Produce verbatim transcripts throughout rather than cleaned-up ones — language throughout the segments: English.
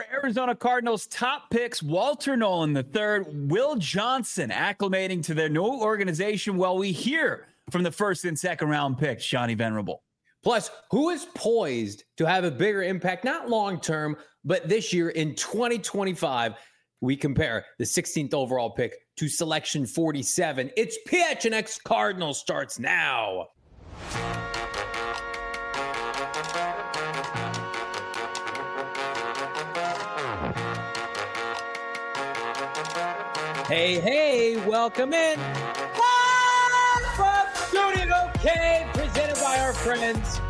Your Arizona Cardinals top picks, Walter Nolan the third, Will Johnson acclimating to their new organization while we hear from the first and second round picks, Johnny Venerable. Plus, who is poised to have a bigger impact, not long-term, but this year in twenty twenty-five, we compare the sixteenth overall pick to selection forty-seven. It's P H N X Cardinals starts now. Hey, hey, welcome in. Live from Studio K, presented by our friends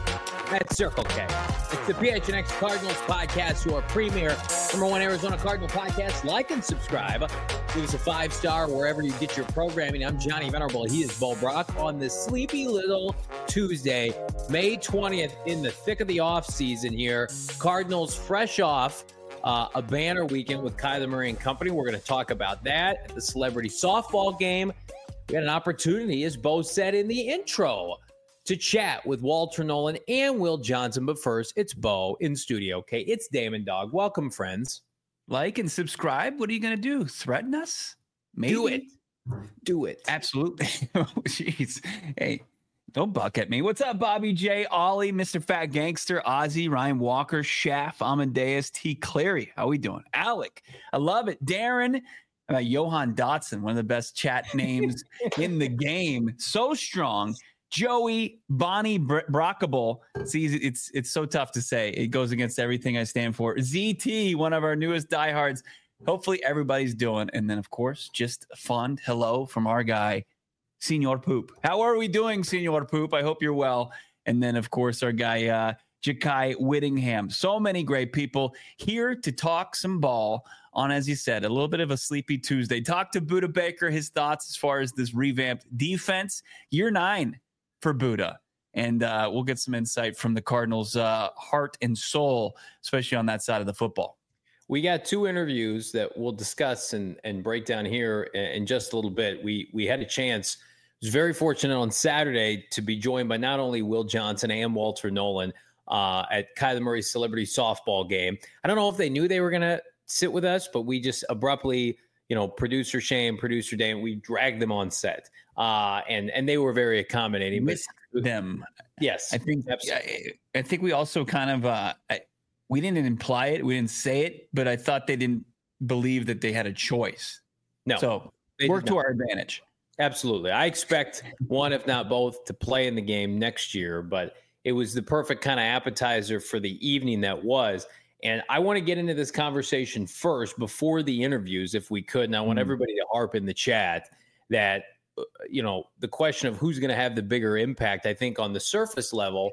at Circle K. It's the P H N X Cardinals podcast, your premier number one Arizona Cardinal podcast. Like and subscribe. Give us a five-star wherever you get your programming. I'm Johnny Venerable. He is Bo Brock on this sleepy little Tuesday, May twentieth, in the thick of the offseason here. Cardinals fresh off Uh, a banner weekend with Kyler Murray and company. We're going to talk about that. The celebrity softball game. We had an opportunity, as Bo said in the intro, to chat with Walter Nolan and Will Johnson. But first, it's Bo in studio. Okay, it's Damon Dog. Welcome, friends. Like and subscribe. What are you going to do? Threaten us? Maybe? Do it. Do it. Absolutely. Oh, jeez. Hey. Don't buck at me. What's up, Bobby J, Ollie, Mister Fat Gangster, Ozzy, Ryan Walker, Shaft, Amadeus, T. Clary. How we doing? Alec, I love it. Darren, uh, Johan Dotson, one of the best chat names in the game. So strong. Joey, Bonnie Br- Brockable. It's easy. It's it's so tough to say. It goes against everything I stand for. Z T, one of our newest diehards. Hopefully everybody's doing. And then, of course, just a fond hello from our guy, Senor Poop. How are we doing, Senor Poop? I hope you're well. And then, of course, our guy, uh, Jakai Whittingham. So many great people here to talk some ball on, as you said, a little bit of a sleepy Tuesday. Talk to Budda Baker, his thoughts as far as this revamped defense. Year nine for Budda. And uh, we'll get some insight from the Cardinals' uh, heart and soul, especially on that side of the football. We got two interviews that we'll discuss and, and break down here in just a little bit. We we had a chance. I was very fortunate on Saturday to be joined by not only Will Johnson and Walter Nolan uh, at Kyler Murray's celebrity softball game. I don't know if they knew they were going to sit with us, but we just abruptly, you know, producer Shane, producer Dan, we dragged them on set, uh, and and they were very accommodating. Miss but them, yes, I think. I, I think we also kind of uh, I, we didn't imply it, we didn't say it, but I thought they didn't believe that they had a choice. No, so work to our advantage. Absolutely. I expect one, if not both, to play in the game next year, but it was the perfect kind of appetizer for the evening that was. And I want to get into this conversation first before the interviews, if we could. And I want mm. everybody to harp in the chat that, you know, the question of who's going to have the bigger impact, I think on the surface level,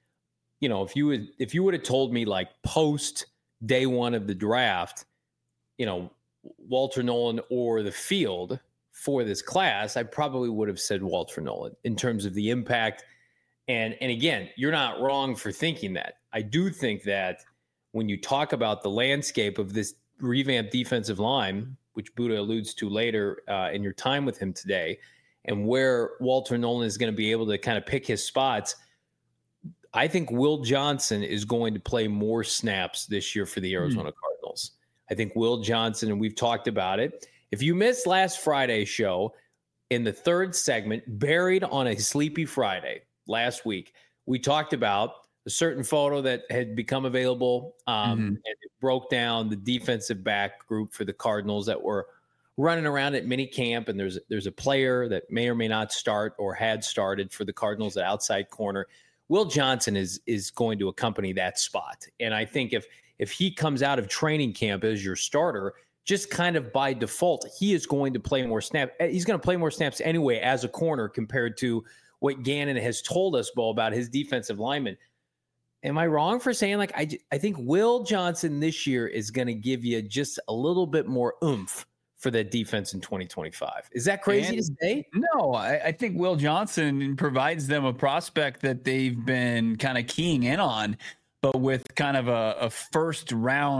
you know, if you would, if you would have told me like post day one of the draft, you know, Walter Nolan or the field for this class, I probably would have said Walter Nolan in terms of the impact. And, and again, you're not wrong for thinking that. I do think that when you talk about the landscape of this revamped defensive line, which Budda alludes to later uh, in your time with him today, and where Walter Nolan is going to be able to kind of pick his spots, I think Will Johnson is going to play more snaps this year for the Arizona mm. Cardinals. I think Will Johnson, and we've talked about it. If you missed last Friday's show, in the third segment, Buried on a Sleepy Friday last week, we talked about a certain photo that had become available, um, mm-hmm. and it broke down the defensive back group for the Cardinals that were running around at mini camp, and there's there's a player that may or may not start or had started for the Cardinals at outside corner. Will Johnson is is going to accompany that spot, and I think if if he comes out of training camp as your starter, just kind of by default, he is going to play more snaps. He's going to play more snaps anyway as a corner compared to what Gannon has told us, Bo, about his defensive linemen. Am I wrong for saying, like, I, I think Will Johnson this year is going to give you just a little bit more oomph for that defense in twenty twenty-five? Is that crazy and, to say? No, I, I think Will Johnson provides them a prospect that they've been kind of keying in on, but with kind of a, a first round,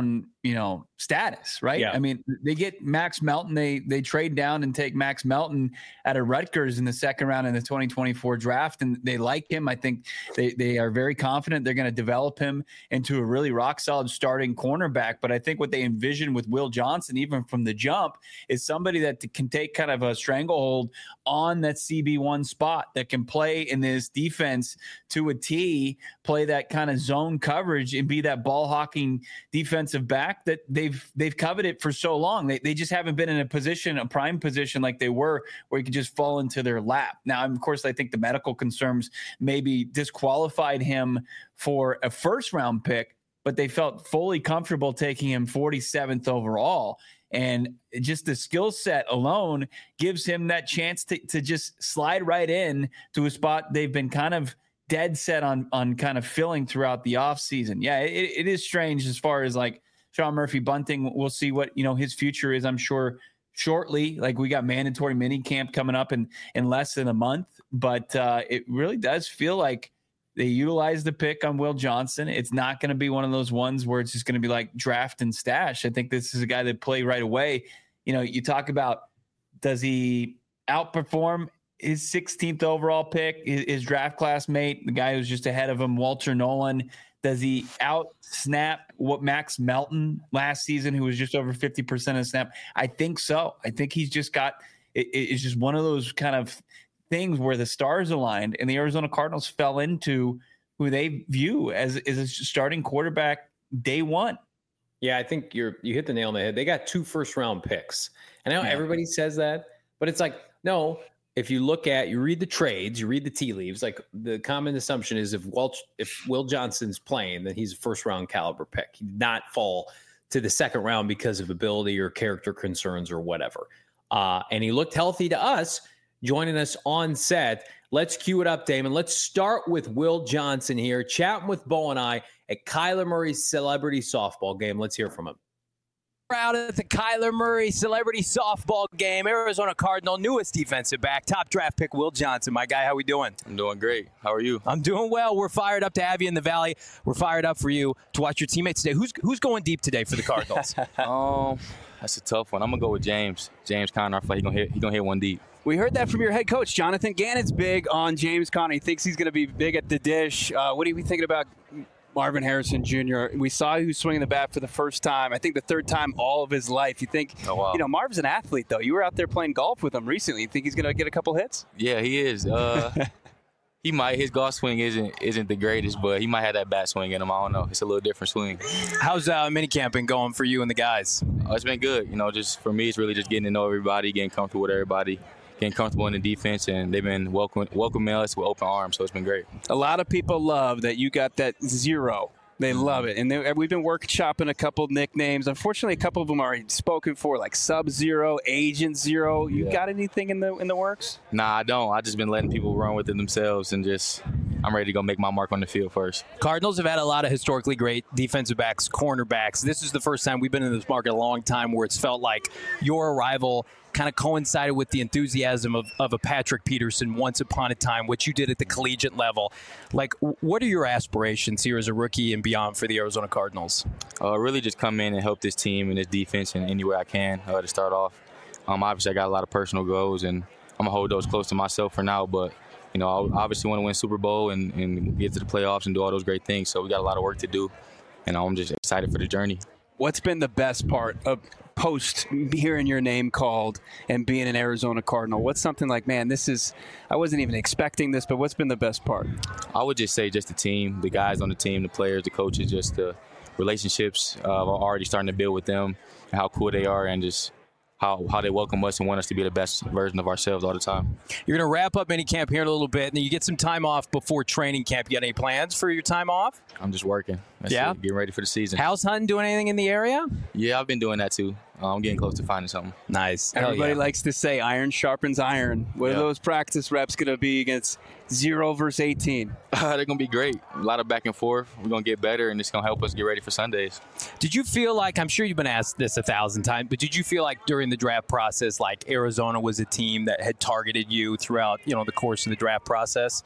you know, status, right? Yeah. I mean, they get Max Melton. They they trade down and take Max Melton out of Rutgers in the second round in the twenty twenty-four draft, and they like him. I think they they are very confident they're going to develop him into a really rock solid starting cornerback. But I think what they envision with Will Johnson, even from the jump, is somebody that can take kind of a stranglehold on that C B one spot, that can play in this defense to a T, play that kind of zone coverage, and be that ball hawking defensive back that they've they've coveted for so long. They they just haven't been in a position, a prime position like they were, where you could just fall into their lap. Now, of course, I think the medical concerns maybe disqualified him for a first round pick, but they felt fully comfortable taking him forty-seventh overall. And just the skill set alone gives him that chance to, to just slide right in to a spot they've been kind of dead set on, on kind of filling throughout the offseason. Yeah, it, it is strange as far as like Sean Murphy Bunting. We'll see what, you know, his future is, I'm sure, shortly. Like, we got mandatory mini camp coming up in, in less than a month. But uh, it really does feel like they utilize the pick on Will Johnson. It's not going to be one of those ones where it's just going to be like draft and stash. I think this is a guy that play right away. You know, you talk about, does he outperform his sixteenth overall pick, his, his draft class mate, the guy who's just ahead of him, Walter Nolan? Does he out snap what Max Melton last season, who was just over fifty percent of snap? I think so. I think he's just got, it, it's just one of those kind of things where the stars aligned and the Arizona Cardinals fell into who they view as, as a starting quarterback day one. Yeah, I think you're you hit the nail on the head. They got two first round picks. And I know yeah. everybody says that, but it's like, no, if you look at, you read the trades, you read the tea leaves, like the common assumption is if Walt, if Will Johnson's playing, then he's a first round caliber pick. He did not fall to the second round because of ability or character concerns or whatever. Uh, and he looked healthy to us. Joining us on set. Let's cue it up, Damon. Let's start with Will Johnson here, chatting with Bo and I at Kyler Murray's celebrity softball game. Let's hear from him. Out at the Kyler Murray celebrity softball game, Arizona Cardinal newest defensive back, top draft pick Will Johnson. My guy, how we doing? I'm doing great. How are you? I'm doing well. We're fired up to have you in the Valley. We're fired up for you to watch your teammates today. Who's who's going deep today for the Cardinals? um, that's a tough one. I'm gonna go with James. James Conner. I feel like he's gonna hit. He's gonna hit one deep. We heard that from your head coach, Jonathan Gannon's big on James Conner. He thinks he's going to be big at the dish. Uh, what are you thinking about Marvin Harrison Junior? We saw he was swinging the bat for the first time. I think the third time all of his life. You think, oh, wow. you know, Marv's an athlete, though. You were out there playing golf with him recently. You think he's going to get a couple hits? Yeah, he is. Uh, he might. His golf swing isn't isn't the greatest, but he might have that bat swing in him. I don't know. It's a little different swing. How's uh, minicamp been going for you and the guys? Uh, it's been good. You know, just for me, it's really just getting to know everybody, getting comfortable with everybody. Getting comfortable in the defense, and they've been welcome, welcoming us with open arms, so it's been great. A lot of people love that you got that zero. They love it. And they, we've been workshopping a couple nicknames. Unfortunately, a couple of them are already spoken for, like Sub-Zero, Agent Zero. You yeah. got anything in the in the works? Nah, I don't. I just been letting people run with it themselves, and just I'm ready to go make my mark on the field first. Cardinals have had a lot of historically great defensive backs, cornerbacks. This is the first time we've been in this market a long time where it's felt like your arrival kind of coincided with the enthusiasm of, of a Patrick Peterson once upon a time, what you did at the collegiate level. Like, what are your aspirations here as a rookie and beyond for the Arizona Cardinals? Uh, really just come in and help this team and this defense in any way I can uh, to start off. Um, obviously, I got a lot of personal goals, and I'm going to hold those close to myself for now. But, you know, I obviously want to win Super Bowl and, and get to the playoffs and do all those great things. So we got a lot of work to do, and I'm just excited for the journey. What's been the best part of post hearing your name called and being an Arizona Cardinal? What's something like, man, this is, I wasn't even expecting this, but what's been the best part? I would just say just the team, the guys on the team, the players, the coaches, just the relationships uh, are already starting to build with them and how cool they are, and just how, how they welcome us and want us to be the best version of ourselves all the time. You're going to wrap up minicamp here in a little bit, and then you get some time off before training camp. You got any plans for your time off? I'm just working. That's yeah? it. Getting ready for the season. House hunting, doing anything in the area? Yeah, I've been doing that too. Uh, I'm getting close to finding something. Nice. Everybody yeah. likes to say iron sharpens iron. What yeah. are those practice reps going to be against zero versus eighteen? Uh, they're going to be great. A lot of back and forth. We're going to get better, and it's going to help us get ready for Sundays. Did you feel like, I'm sure you've been asked this a thousand times, but did you feel like during the draft process, like Arizona was a team that had targeted you throughout, you know, the course of the draft process?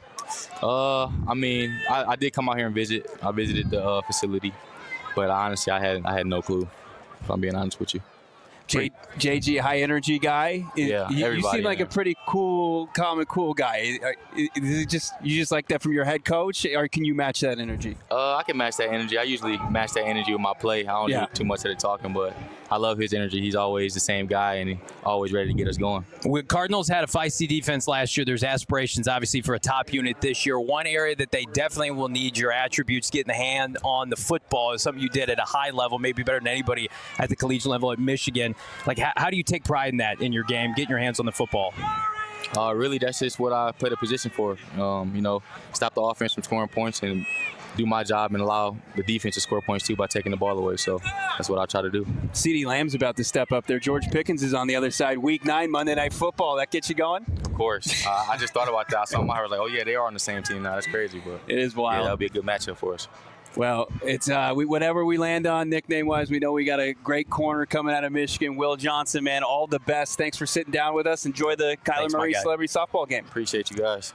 Uh, I mean, I, I did come out here and visit. I visited the uh, facility, but honestly, I had I had no clue. if I'm being honest with you. J, JG, high energy guy. Yeah, you, you seem like there. a pretty cool, calm and cool guy. Is it just you just like that from your head coach, or can you match that energy? Uh, I can match that energy. I usually match that energy with my play. I don't Yeah. do too much of the talking, but I love his energy. He's always the same guy, and he's always ready to get us going. Well, Cardinals had a feisty defense last year. There's aspirations, obviously, for a top unit this year. One area that they definitely will need your attributes, getting the hand on the football, is something you did at a high level, maybe better than anybody at the collegiate level at Michigan. Like, how, how do you take pride in that in your game, getting your hands on the football? Uh, really, that's just what I played a position for. Um, you know, stop the offense from scoring points and do my job and allow the defense to score points too by taking the ball away. So that's what I try to do. CeeDee Lamb's about to step up there. George Pickens is on the other side. Week nine, Monday Night Football. That gets you going? Of course. uh, I just thought about that. I saw my heart was like, oh, yeah, they are on the same team now. That's crazy. But it is wild. Yeah, that'll be a good matchup for us. Well, it's uh, we, whatever we land on nickname-wise, we know we got a great corner coming out of Michigan. Will Johnson, man, all the best. Thanks for sitting down with us. Enjoy the Kyler Thanks, Murray Celebrity Softball game. Appreciate you guys.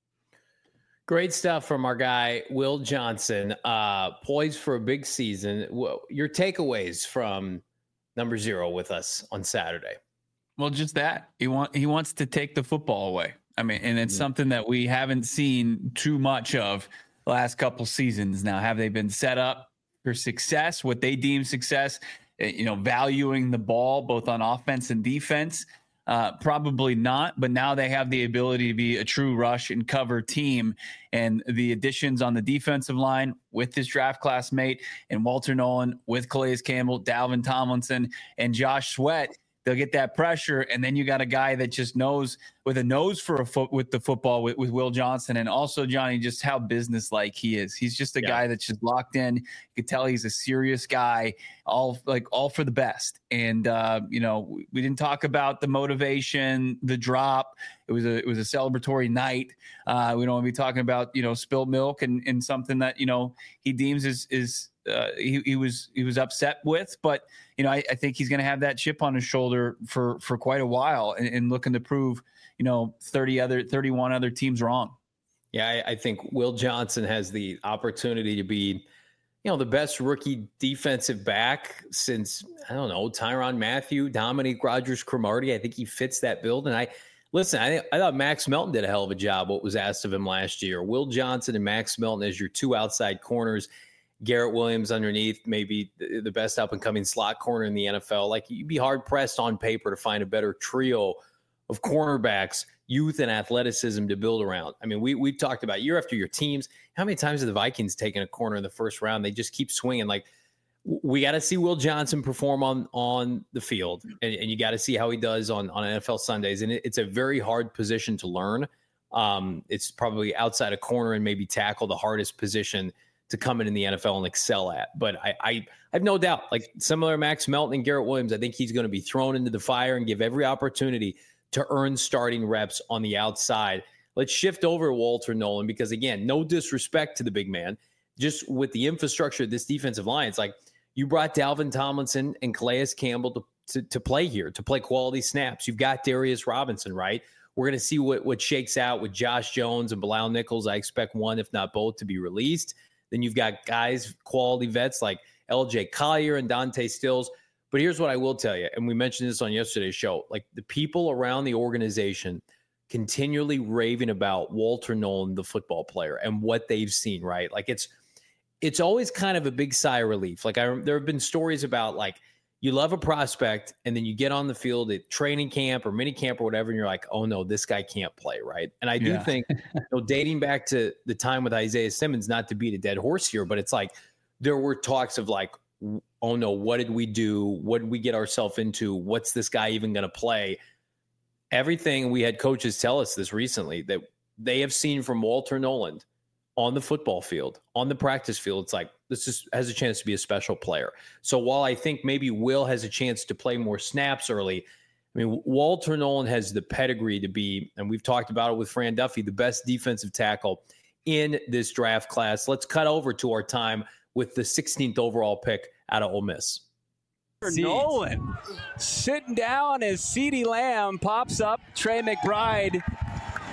Great stuff from our guy, Will Johnson. Uh, poised for a big season. Your takeaways from number zero with us on Saturday? Well, just that. He want he wants to take the football away. I mean, and it's mm-hmm. something that we haven't seen too much of the last couple seasons. Now, have they been set up for success, what they deem success, you know, valuing the ball both on offense and defense? Uh, probably not, but now they have the ability to be a true rush and cover team. And the additions on the defensive line with this draft classmate and Walter Nolan with Calais Campbell, Dalvin Tomlinson, and Josh Sweat, they'll get that pressure. And then you got a guy that just knows with a nose for a foot with the football with, with Will Johnson. And also, Johnny, just how business-like he is. He's just a yeah. guy that's just locked in. You could tell he's a serious guy, all like all for the best. And, uh, you know, we didn't talk about the motivation, the drop. It was a, it was a celebratory night. Uh, we don't want to be talking about, you know, spilled milk and, and something that, you know, he deems is, is, Uh, he, he was he was upset with, but you know I, I think he's going to have that chip on his shoulder for for quite a while, and, and looking to prove you know thirty other thirty-one other teams wrong. Yeah, I, I think Will Johnson has the opportunity to be, you know, the best rookie defensive back since I don't know Tyrann Mathieu, Dominique Rodgers-Cromartie. I think he fits that build, and I. Listen, I, I thought Max Melton did a hell of a job. What was asked of him last year, Will Johnson and Max Melton as your two outside corners. Garrett Williams underneath, maybe the best up-and-coming slot corner in the N F L. Like, you'd be hard-pressed on paper to find a better trio of cornerbacks, youth and athleticism to build around. I mean, we, we've talked about year after year teams. How many times have the Vikings taken a corner in the first round? They just keep swinging. Like, we got to see Will Johnson perform on, on the field, and, and you got to see how he does on, on N F L Sundays. And it, it's a very hard position to learn. Um, it's probably outside of corner and maybe tackle, the hardest position to come in in the N F L and excel at. But I, I, I have no doubt, like similar to Max Melton and Garrett Williams, I think he's going to be thrown into the fire and give every opportunity to earn starting reps on the outside. Let's shift over to Walter Nolan, because again, no disrespect to the big man, just with the infrastructure of this defensive line, it's like you brought Dalvin Tomlinson and Calais Campbell to, to, to play here, to play quality snaps. You've got Darius Robinson, right? We're going to see what, what shakes out with Josh Jones and Bilal Nichols. I expect one, if not both, to be released. Then you've got guys, quality vets like L J Collier and Dante Stills. But here's what I will tell you, and we mentioned this on yesterday's show, like the people around the organization continually raving about Walter Nolan, the football player, and what they've seen, right? Like it's it's always kind of a big sigh of relief. Like I, there have been stories about like you love a prospect and then you get on the field at training camp or mini camp or whatever, and you're like, oh no, this guy can't play, right? And I do yeah. think, you know, dating back to the time with Isaiah Simmons, not to beat a dead horse here, but it's like there were talks of like, oh no, what did we do? What did we get ourselves into? What's this guy even going to play? Everything, we had coaches tell us this recently, that they have seen from Walter Nolan on the football field, on the practice field, it's like, this is, has a chance to be a special player. So while I think maybe Will has a chance to play more snaps early, I mean, Walter Nolan has the pedigree to be, and we've talked about it with Fran Duffy, the best defensive tackle in this draft class. Let's cut over to our time with the sixteenth overall pick out of Ole Miss. Nolan sitting down as CeeDee Lamb pops up. Trey McBride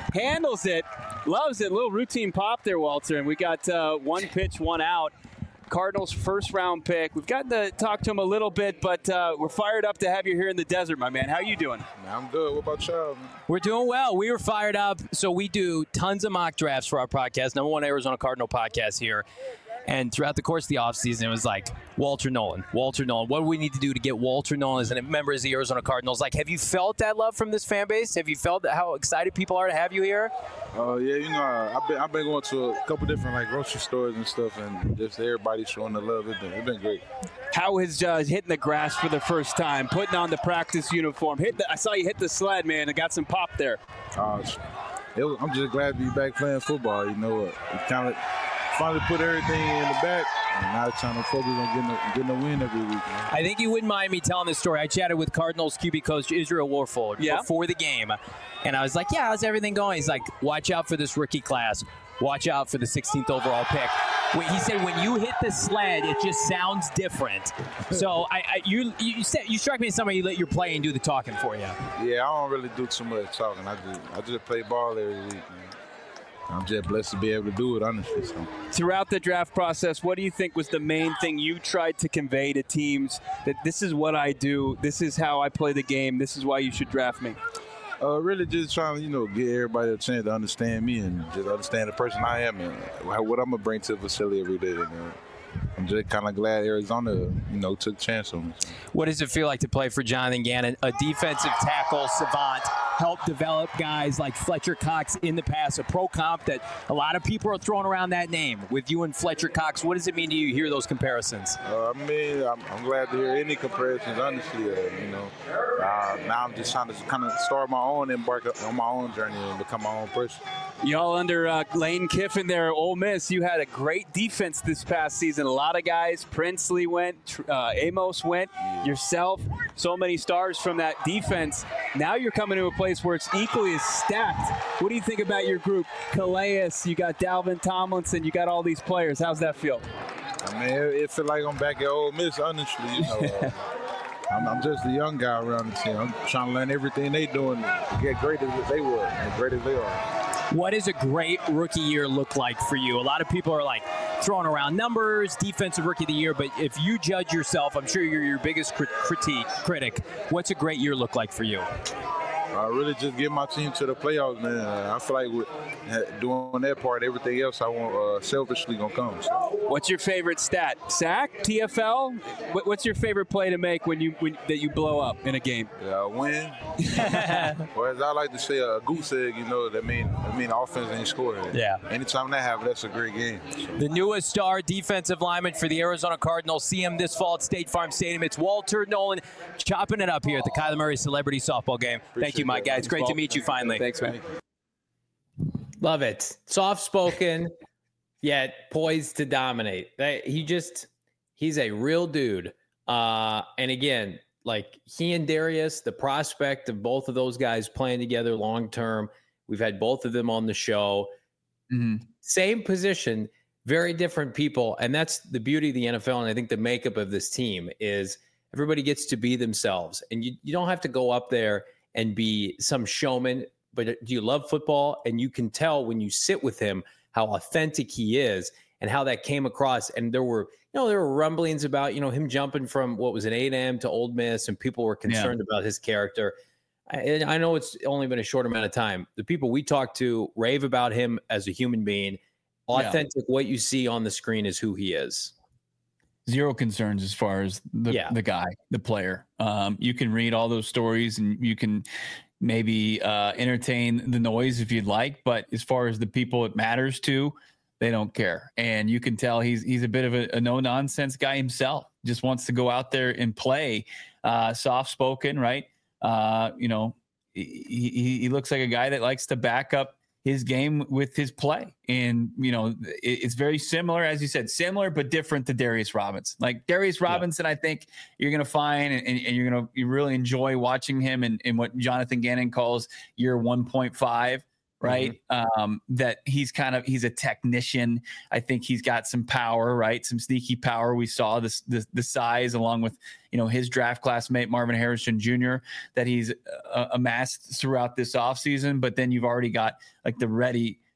handles it. Loves it. Little routine pop there, Walter. And we got uh, one pitch, one out. Cardinals first round pick. We've gotten to talk to him a little bit, but uh, we're fired up to have you here in the desert, my man. How you doing? Man, I'm good. What about y'all, man? We're doing well. We were fired up. So we do tons of mock drafts for our podcast, number one Arizona Cardinal podcast here. And throughout the course of the offseason, it was like, Walter Nolan, Walter Nolan. What do we need to do to get Walter Nolan as a member of the Arizona Cardinals? Like, have you felt that love from this fan base? Have you felt how excited people are to have you here? Oh, uh, yeah, you know, I've been, I've been going to a couple different, like, grocery stores and stuff, and just everybody showing the love. It's been, it's been great. How is uh, hitting the grass for the first time, putting on the practice uniform? Hit the, I saw you hit the sled, man, and got some pop there. Uh, it was, I'm just glad to be back playing football, you know. It kind of finally put everything in the back, and now it's trying to focus on getting a, getting a win every week, man. I think you wouldn't mind me telling this story. I chatted with Cardinals Q B coach Israel Warford yeah. before the game, and I was like, yeah, how's everything going? He's like, watch out for this rookie class. Watch out for the sixteenth overall pick. He said when you hit the sled, it just sounds different. So I, I you you said you struck me as somebody you let your play and do the talking for you. Yeah, I don't really do too much talking. I just I just play ball every week, man. I'm just blessed to be able to do it, honestly. So. Throughout the draft process, what do you think was the main thing you tried to convey to teams that this is what I do, this is how I play the game, this is why you should draft me? Uh, really just trying to, you know, give everybody a chance to understand me and just understand the person I am and what I'm going to bring to the facility every day. And, uh, I'm just kind of glad Arizona, you know, took a chance on me. What does it feel like to play for Jonathan Gannon, a defensive tackle savant, helped develop guys like Fletcher Cox in the past, a pro comp that a lot of people are throwing around that name with you and Fletcher Cox? What does it mean to you hear those comparisons? Uh, I mean, I'm, I'm glad to hear any comparisons, honestly. Uh, you know, uh, now I'm just trying to kind of start my own, embark on my own journey and become my own person. Y'all under uh, Lane Kiffin there at Ole Miss, you had a great defense this past season. A lot of guys, Princely went, uh, Amos went, yourself, so many stars from that defense. Now you're coming to a place where it's equally as stacked. What do you think about your group? Calais, you got Dalvin Tomlinson, you got all these players. How's that feel? I mean, it, it feels like I'm back at Ole Miss, honestly. You know, uh, I'm, I'm just a young guy around the team. I'm trying to learn everything they doing to get great as they were and great as they are. What does a great rookie year look like for you? A lot of people are like throwing around numbers, defensive rookie of the year, but if you judge yourself, I'm sure you're your biggest crit- critique, critic. What's a great year look like for you? I really just get my team to the playoffs, man. I feel like with doing that part, everything else I want uh, selfishly gonna come. So. What's your favorite stat? Sack, T F L? What's your favorite play to make when you when, that you blow up in a game? Yeah, win. Or as I like to say, a goose egg. You know, that mean that mean offense ain't scoring. Yeah. Anytime that happens, that's a great game. So. The newest star defensive lineman for the Arizona Cardinals. See him this fall at State Farm Stadium. It's Walter Nolan, chopping it up here at the Kyler Murray Celebrity Softball Game. Appreciate Thank you, my guy. It's great to meet you finally. Thanks, man. Love it. Soft-spoken, yet poised to dominate. He just, he's a real dude. Uh, and again, like he and Darius, the prospect of both of those guys playing together long-term. We've had both of them on the show. Mm-hmm. Same position, very different people. And that's the beauty of the N F L. And I think the makeup of this team is everybody gets to be themselves. And you, you don't have to go up there and be some showman, but do you love football? And you can tell when you sit with him how authentic he is and how that came across. And there were, you know, there were rumblings about, you know, him jumping from what was an eight a.m. to Ole Miss, and people were concerned yeah. about his character. I, I know it's only been a short amount of time. The people we talked to rave about him as a human being. Authentic, yeah. What you see on the screen is who he is. Zero concerns as far as the, yeah. the guy, the player. Um, you can read all those stories and you can maybe uh, entertain the noise if you'd like, but as far as the people it matters to, they don't care. And you can tell he's he's a bit of a, a no-nonsense guy himself. Just wants to go out there and play, uh, soft-spoken, right? Uh, you know, he, he, he looks like a guy that likes to back up his game with his play. And, you know, it, it's very similar, as you said, similar but different to Darius Robinson. Like Darius Robinson, yeah. I think you're going to find and, and you're going to you really enjoy watching him in, in what Jonathan Gannon calls year one point five. Right. Mm-hmm. Um, that he's kind of, he's a technician. I think he's got some power, right? Some sneaky power. We saw this, the, the size along with, you know, his draft classmate, Marvin Harrison Junior, that he's uh, amassed throughout this offseason. But then you've already got like the ready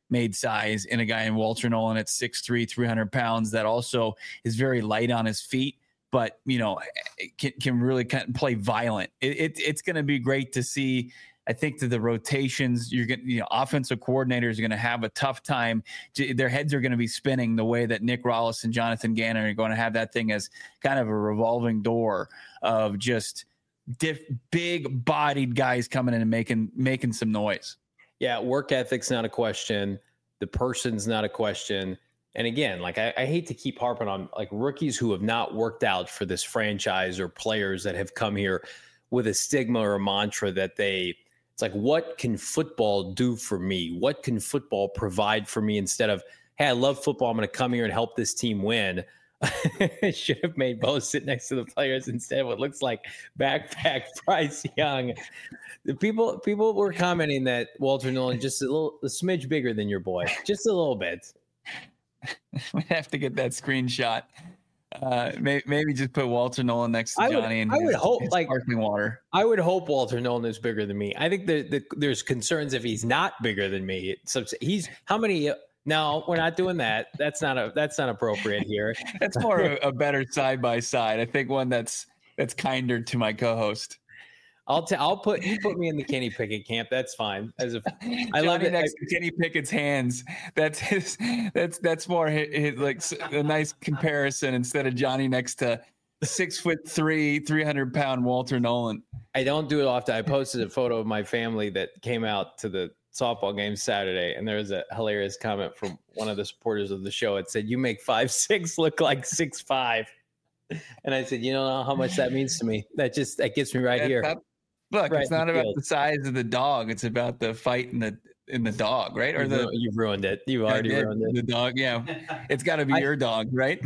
made size in a guy in Walter Nolan at six three, three hundred pounds that also is very light on his feet, but, you know, can, can really kind of play violent. It, it, it's going to be great to see. I think that the rotations, you're going you know, offensive coordinators are going to have a tough time. Their heads are going to be spinning the way that Nick Rollis and Jonathan Gannon are going to have that thing as kind of a revolving door of just diff, big bodied guys coming in and making, making some noise. Yeah. Work ethic's not a question. The person's not a question. And again, like I, I hate to keep harping on like rookies who have not worked out for this franchise or players that have come here with a stigma or a mantra that they, it's like, what can football do for me? What can football provide for me instead of, hey, I love football, I'm going to come here and help this team win. Should have made both sit next to the players instead of what looks like backpack Bryce Young. The people people were commenting that Walter Nolan just a little a smidge bigger than your boy, just a little bit. We have to get that screenshot. Uh, maybe, maybe just put Walter Nolan next to I would, Johnny and I would his, hope his like sparkling water. I would hope Walter Nolan is bigger than me. I think that the, there's concerns if he's not bigger than me. So he's how many? No, we're not doing that. That's not a that's not appropriate here. That's more a, a better side by side. I think one that's that's kinder to my co-host. I'll t- I'll put you put me in the Kenny Pickett camp. That's fine. As a, I Johnny love it. next to Kenny Pickett's hands. That's his. That's that's more his, his, like a nice comparison instead of Johnny next to six foot three, three hundred pound Walter Nolan. I don't do it often. I posted a photo of my family that came out to the softball game Saturday, and there was a hilarious comment from one of the supporters of the show. It said, "You make five six look like six five," and I said, "You don't know how much that means to me. That just that gets me right That's here." Not, look, right it's not about field. the size of the dog. It's about the fight in the in the dog, right? Or You've, the ru- you've ruined it. You've already did, ruined it. the dog. Yeah, it's got to be I- your dog, right?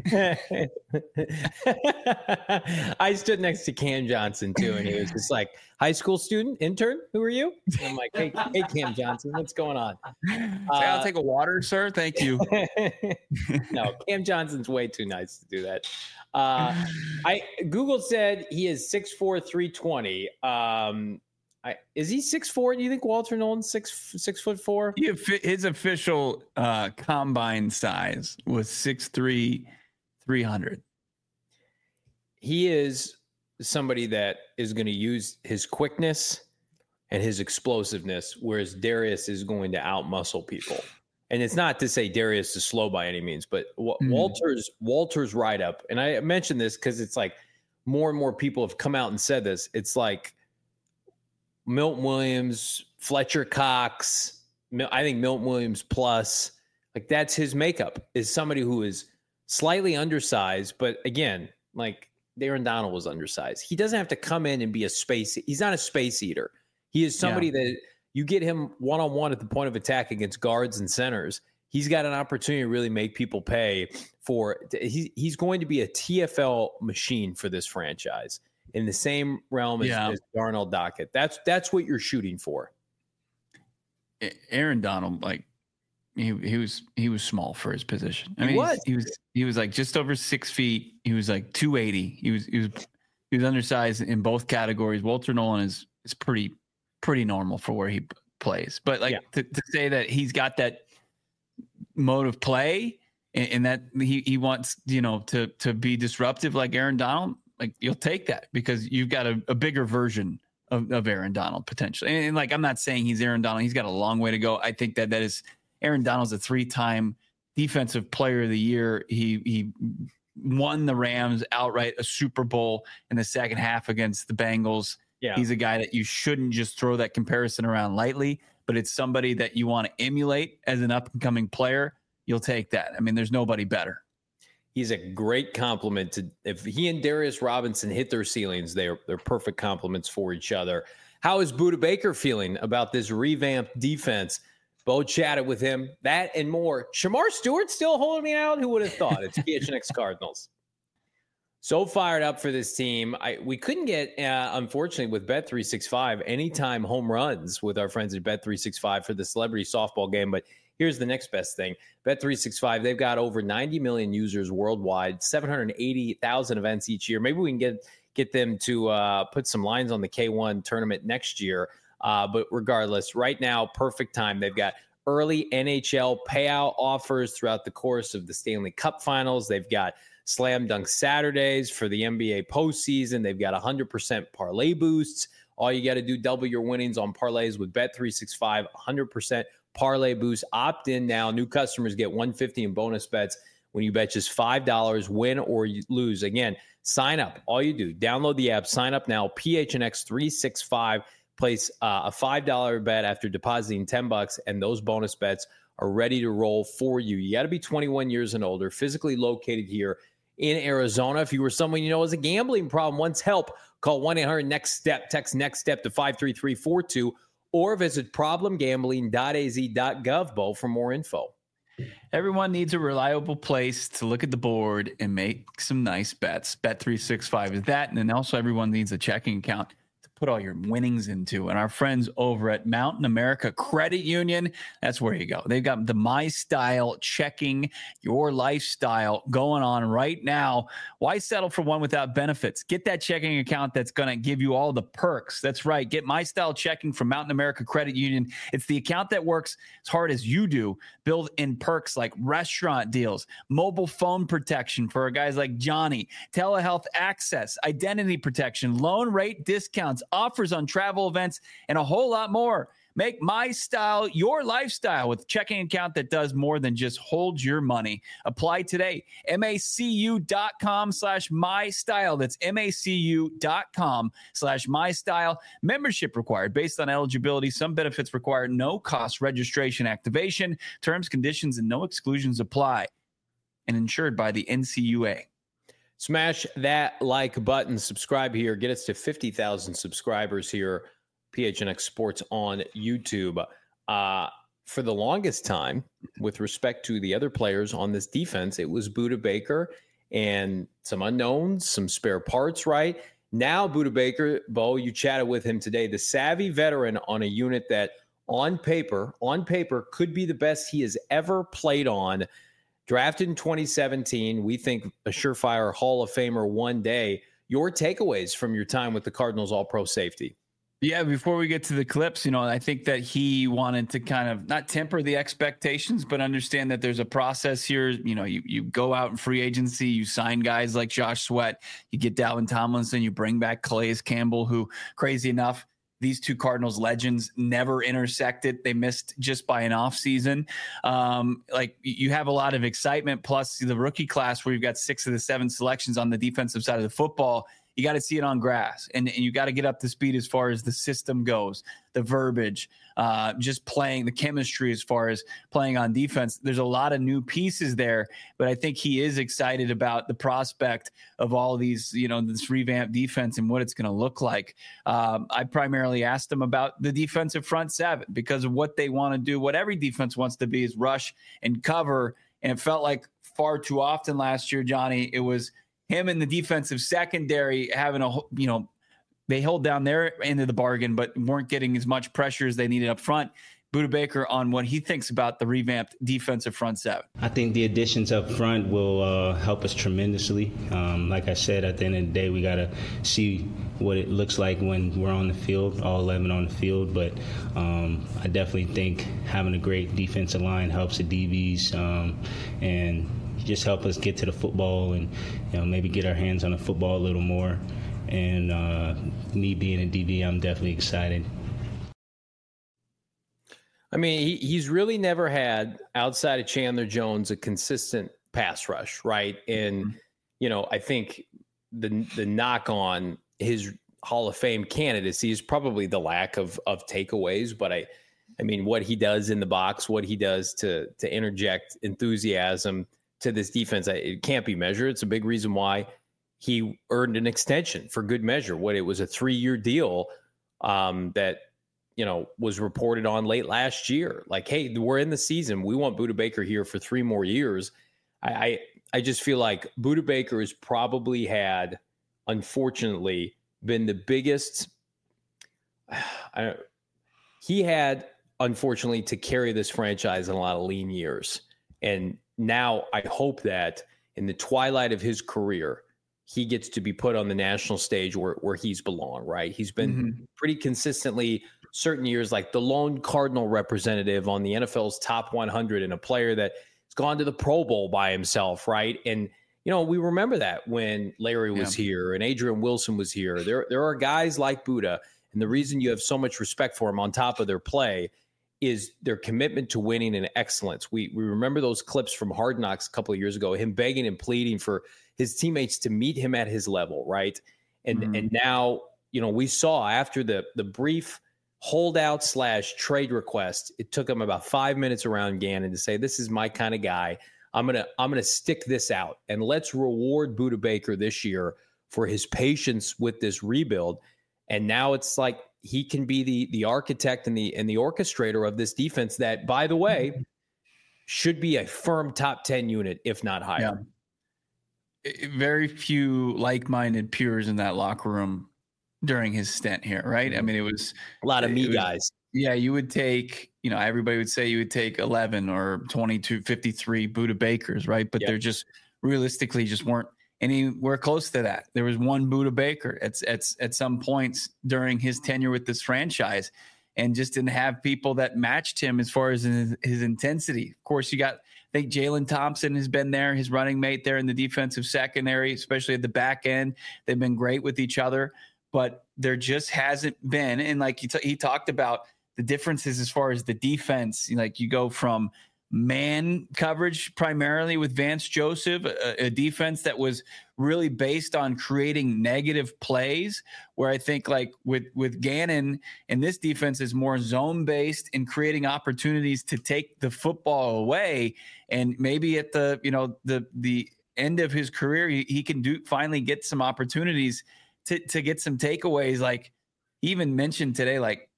I stood next to Cam Johnson too, and he was just like, "High school student, intern, who are you?" And I'm like, "Hey, hey, Cam Johnson, what's going on?" Say, I'll Uh, take a water, sir. Thank you. No, Cam Johnson's way too nice to do that. Uh, I Google said he is six four, three twenty. Um, I, is he six four? Do you think Walter Nolan's six six foot four? He, his official uh, combine size was six three, three hundred. He is somebody that is going to use his quickness and his explosiveness, whereas Darius is going to outmuscle people. And it's not to say Darius is slow by any means, but w- Mm. Walter's Walter's write up, and I mentioned this because it's like more and more people have come out and said this. It's like Milton Williams, Fletcher Cox. Mil- I think Milton Williams plus, like that's his makeup, is somebody who is slightly undersized, but again, like Aaron Donald was undersized. He doesn't have to come in and be a space. He's not a space eater. He is somebody Yeah. that you get him one-on-one at the point of attack against guards and centers. He's got an opportunity to really make people pay for. He, he's going to be a T F L machine for this franchise in the same realm as, Yeah. as Darnell Dockett. That's that's what you're shooting for. Aaron Donald, like he he was he was small for his position. I He mean, was. he was he was like just over six feet. He was like two eighty. He was he was he was undersized in both categories. Walter Nolan is is pretty pretty normal for where he p- plays. But like Yeah. to, to say that he's got that mode of play and, and that he he wants you know to to be disruptive like Aaron Donald, like you'll take that because you've got a, a bigger version of, of Aaron Donald potentially. And, and like I'm not saying he's Aaron Donald. He's got a long way to go. I think that that is Aaron Donald's a three-time defensive player of the year. He he won the Rams outright a Super Bowl in the second half against the Bengals. Yeah. He's a guy that you shouldn't just throw that comparison around lightly, but it's somebody that you want to emulate as an up-and-coming player. You'll take that. I mean, there's nobody better. He's a great compliment to if he and Darius Robinson hit their ceilings, they're they're perfect compliments for each other. How is Budda Baker feeling about this revamped defense? Bo chatted with him, that and more. Shamar Stewart still holding me out? Who would have thought? It's P H N X Cardinals. So fired up for this team. I we couldn't get, uh, unfortunately, with Bet three sixty-five, anytime home runs with our friends at Bet three sixty-five for the celebrity softball game. But here's the next best thing. Bet three sixty-five, they've got over ninety million users worldwide, seven hundred eighty thousand events each year. Maybe we can get get them to uh, put some lines on the K one tournament next year. Uh, but regardless, right now, perfect time. They've got early N H L payout offers throughout the course of the Stanley Cup Finals. They've got Slam Dunk Saturdays for the N B A postseason. They've got one hundred percent parlay boosts. All you got to do, double your winnings on parlays with Bet three sixty-five, one hundred percent parlay boost. Opt in now. New customers get one hundred fifty in bonus bets when you bet just five dollars, win or you lose. Again, sign up. All you do, download the app, sign up now, P H N X three sixty-five. Place uh, a five dollars bet after depositing ten bucks, and those bonus bets are ready to roll for you. You got to be twenty-one years and older, physically located here in Arizona. If you were someone you know has a gambling problem, wants help, call one eight hundred next step, text NEXTSTEP to five three three four two, or visit problem gambling dot a z dot gov, Bo, for more info. Everyone needs a reliable place to look at the board and make some nice bets. Bet three sixty-five is that, and then also everyone needs a checking account put all your winnings into. And our friends over at Mountain America Credit Union, that's where you go. They've got the My Style checking your lifestyle going on right now. Why settle for one without benefits? Get that checking account that's going to give you all the perks. That's right. Get My Style checking from Mountain America Credit Union. It's the account that works as hard as you do. Build in perks like restaurant deals, mobile phone protection for guys like Johnny, telehealth access, identity protection, loan rate discounts, offers on travel events, and a whole lot more. Make My Style your lifestyle with a checking account that does more than just hold your money. Apply today. macu.com slash my style. That's macu.com slash my style. Membership required based on eligibility. Some benefits require no cost registration activation. Terms, conditions, and no exclusions apply. And insured by the N C U A. Smash that like button. Subscribe here. Get us to fifty thousand subscribers here. P H N X Sports on YouTube. Uh, for the longest time, with respect to the other players on this defense, it was Budda Baker and some unknowns, some spare parts, right? Now, Budda Baker, Bo, you chatted with him today, the savvy veteran on a unit that on paper, on paper, could be the best he has ever played on. Drafted in twenty seventeen, we think a surefire Hall of Famer one day. Your takeaways from your time with the Cardinals All-Pro safety? Yeah, before we get to the clips, you know, I think that he wanted to kind of not temper the expectations, but understand that there's a process here. You know, you, you go out in free agency, you sign guys like Josh Sweat, you get Dalvin Tomlinson, you bring back Calais Campbell, who, crazy enough, these two Cardinals legends never intersected. They missed just by an off season. Um, like you have a lot of excitement, plus the rookie class where you've got six of the seven selections on the defensive side of the football. You got to see it on grass, and, and you got to get up to speed as far as the system goes, the verbiage, uh, just playing, the chemistry as far as playing on defense. There's a lot of new pieces there, but I think he is excited about the prospect of all of these, you know, this revamped defense and what it's going to look like. Um, I primarily asked him about the defensive front seven because of what they want to do. What every defense wants to be is rush and cover, and it felt like far too often last year, Johnny, it was him and the defensive secondary having a, you know, they held down their end of the bargain, but weren't getting as much pressure as they needed up front. Budda Baker on what he thinks about the revamped defensive front seven. I think the additions up front will uh, help us tremendously. Um, like I said, at the end of the day, we got to see what it looks like when we're on the field, all eleven on the field. But um, I definitely think having a great defensive line helps the D Bs um, and just help us get to the football and, you know, maybe get our hands on the football a little more. And uh, me being a D B, I'm definitely excited. I mean, he, he's really never had, outside of Chandler Jones, a consistent pass rush, right? And, mm-hmm. you know, I think the the knock on his Hall of Fame candidacy is probably the lack of of takeaways. But I, I mean, what he does in the box, what he does to to interject enthusiasm to this defense, it can't be measured. It's a big reason why he earned an extension for good measure. What it was a three-year deal um, that, you know, was reported on late last year. Like, hey, we're in the season. We want Budda Baker here for three more years. I, I, I just feel like Budda Baker has probably had, unfortunately, been the biggest. I, he had, unfortunately, to carry this franchise in a lot of lean years. And now I hope that in the twilight of his career, he gets to be put on the national stage where, where he's belong, right? He's been mm-hmm. pretty consistently certain years like the lone Cardinal representative on the N F L's top one hundred and a player that has gone to the Pro Bowl by himself, right? And, you know, we remember that when Larry was yeah. here and Adrian Wilson was here. There, there are guys like Buddha, and the reason you have so much respect for him on top of their play is their commitment to winning and excellence. We we remember those clips from Hard Knocks a couple of years ago, him begging and pleading for his teammates to meet him at his level, right? And mm-hmm. and now, you know, we saw after the the brief holdout slash trade request, it took him about five minutes around Gannon to say, this is my kind of guy. I'm gonna I'm gonna stick this out, and let's reward Buddha Baker this year for his patience with this rebuild. And now it's like he can be the the architect and the and the orchestrator of this defense that, by the way, should be a firm top ten unit, if not higher. Yeah. Very few like-minded peers in that locker room during his stint here, right? I mean, it was a lot of me was, guys. Yeah, you would take, you know, everybody would say you would take eleven or twenty-two, fifty-three Buddha Bakers, right? But yep. they're just realistically just weren't anywhere close to that. There was one Buddha Baker at, at, at some points during his tenure with this franchise, and just didn't have people that matched him as far as his, his intensity. Of course, you got, I think Jalen Thompson has been there, his running mate there in the defensive secondary, especially at the back end. They've been great with each other, but there just hasn't been. And like he, t- he talked about the differences as far as the defense, like you go from man coverage primarily with Vance Joseph, a, a defense that was really based on creating negative plays, where I think like with, with Gannon, and this defense is more zone based and creating opportunities to take the football away. And maybe at the, you know, the, the end of his career, he, he can do finally get some opportunities to, to get some takeaways. Like he even mentioned today, like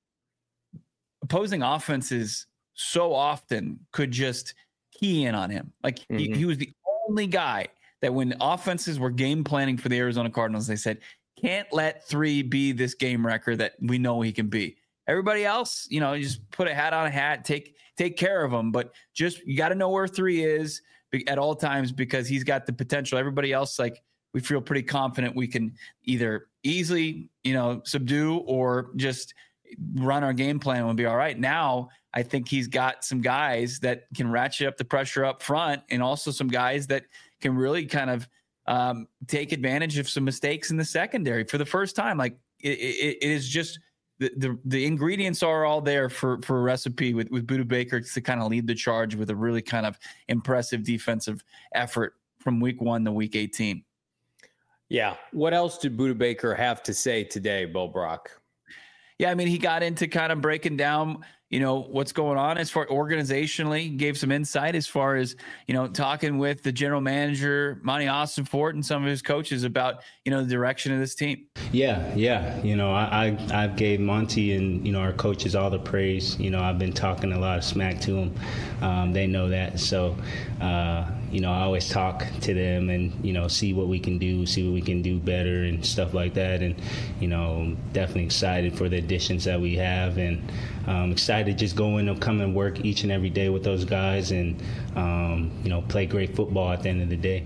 opposing offenses so often could just key in on him. Like mm-hmm. he, he was the only guy that when offenses were game planning for the Arizona Cardinals, they said, can't let three be this game record that we know he can be. Everybody else, you know, just put a hat on a hat, take, take care of him. But just, you got to know where three is at all times, because he's got the potential. Everybody else, like, we feel pretty confident we can either easily, you know, subdue or just run our game plan and we'll be all right. Now, I think he's got some guys that can ratchet up the pressure up front, and also some guys that can really kind of um, take advantage of some mistakes in the secondary for the first time. Like it, it, it is just the, the the ingredients are all there for for a recipe with, with Buddha Baker to kind of lead the charge with a really kind of impressive defensive effort from week one to week eighteen. Yeah. What else did Buddha Baker have to say today, Bo Brock? Yeah, I mean, he got into kind of breaking down, you know, what's going on as far organizationally, gave some insight as far as, you know, talking with the general manager, Monty Ossenfort, and some of his coaches about, you know, the direction of this team. Yeah, yeah. You know, I, I, I've gave Monty and, you know, our coaches all the praise. You know, I've been talking a lot of smack to them. Um, they know that. So, uh, you know, I always talk to them and, you know, see what we can do, see what we can do better and stuff like that. And, you know, definitely excited for the additions that we have, and um, excited to just go in and come and work each and every day with those guys and, um, you know, play great football at the end of the day.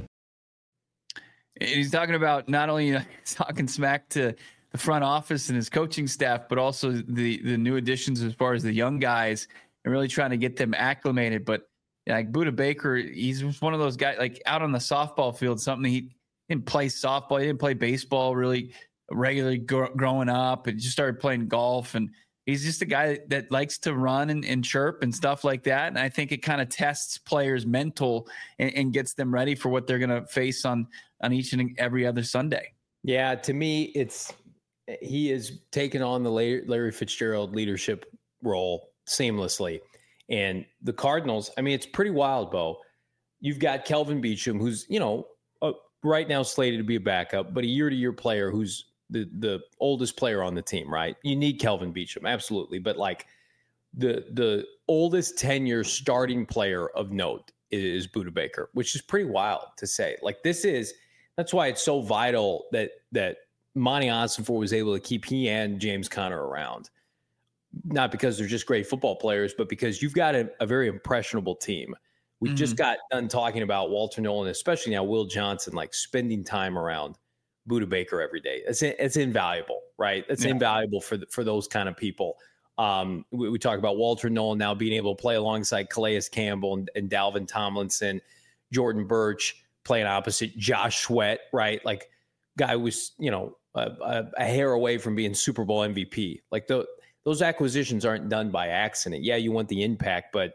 He's talking about not only, you know, he's talking smack to the front office and his coaching staff, but also the, the new additions as far as the young guys and really trying to get them acclimated. But like Buddha Baker, he's one of those guys, like out on the softball field, something he didn't play softball. He didn't play baseball really regularly gr- growing up, and just started playing golf. And he's just a guy that likes to run and, and chirp and stuff like that. And I think it kind of tests players' mental and, and gets them ready for what they're going to face on, on each and every other Sunday. Yeah. To me, it's, he is taking on the Larry, Larry Fitzgerald leadership role seamlessly. And the Cardinals, I mean, it's pretty wild, Bo. You've got Kelvin Beachum, who's, you know, uh, right now slated to be a backup, but a year-to-year player who's the the oldest player on the team, right? You need Kelvin Beachum, absolutely. But, like, the the oldest tenure starting player of note is Buddha Baker, which is pretty wild to say. Like, this is – that's why it's so vital that that Monty Ossenfort was able to keep he and James Conner around. Not because they're just great football players, but because you've got a, a very impressionable team. We mm-hmm. just got done talking about Walter Nolan, especially now Will Johnson, like spending time around Budda Baker every day. It's it's invaluable, right? It's yeah. invaluable for the, for those kind of people. Um, we, we talk about Walter Nolan now being able to play alongside Calais Campbell and, and Dalvin Tomlinson, Jordan Birch playing opposite Josh Sweat, right? Like, guy was, you know, a, a, a hair away from being Super Bowl M V P. Like, the, those acquisitions aren't done by accident. Yeah, you want the impact, but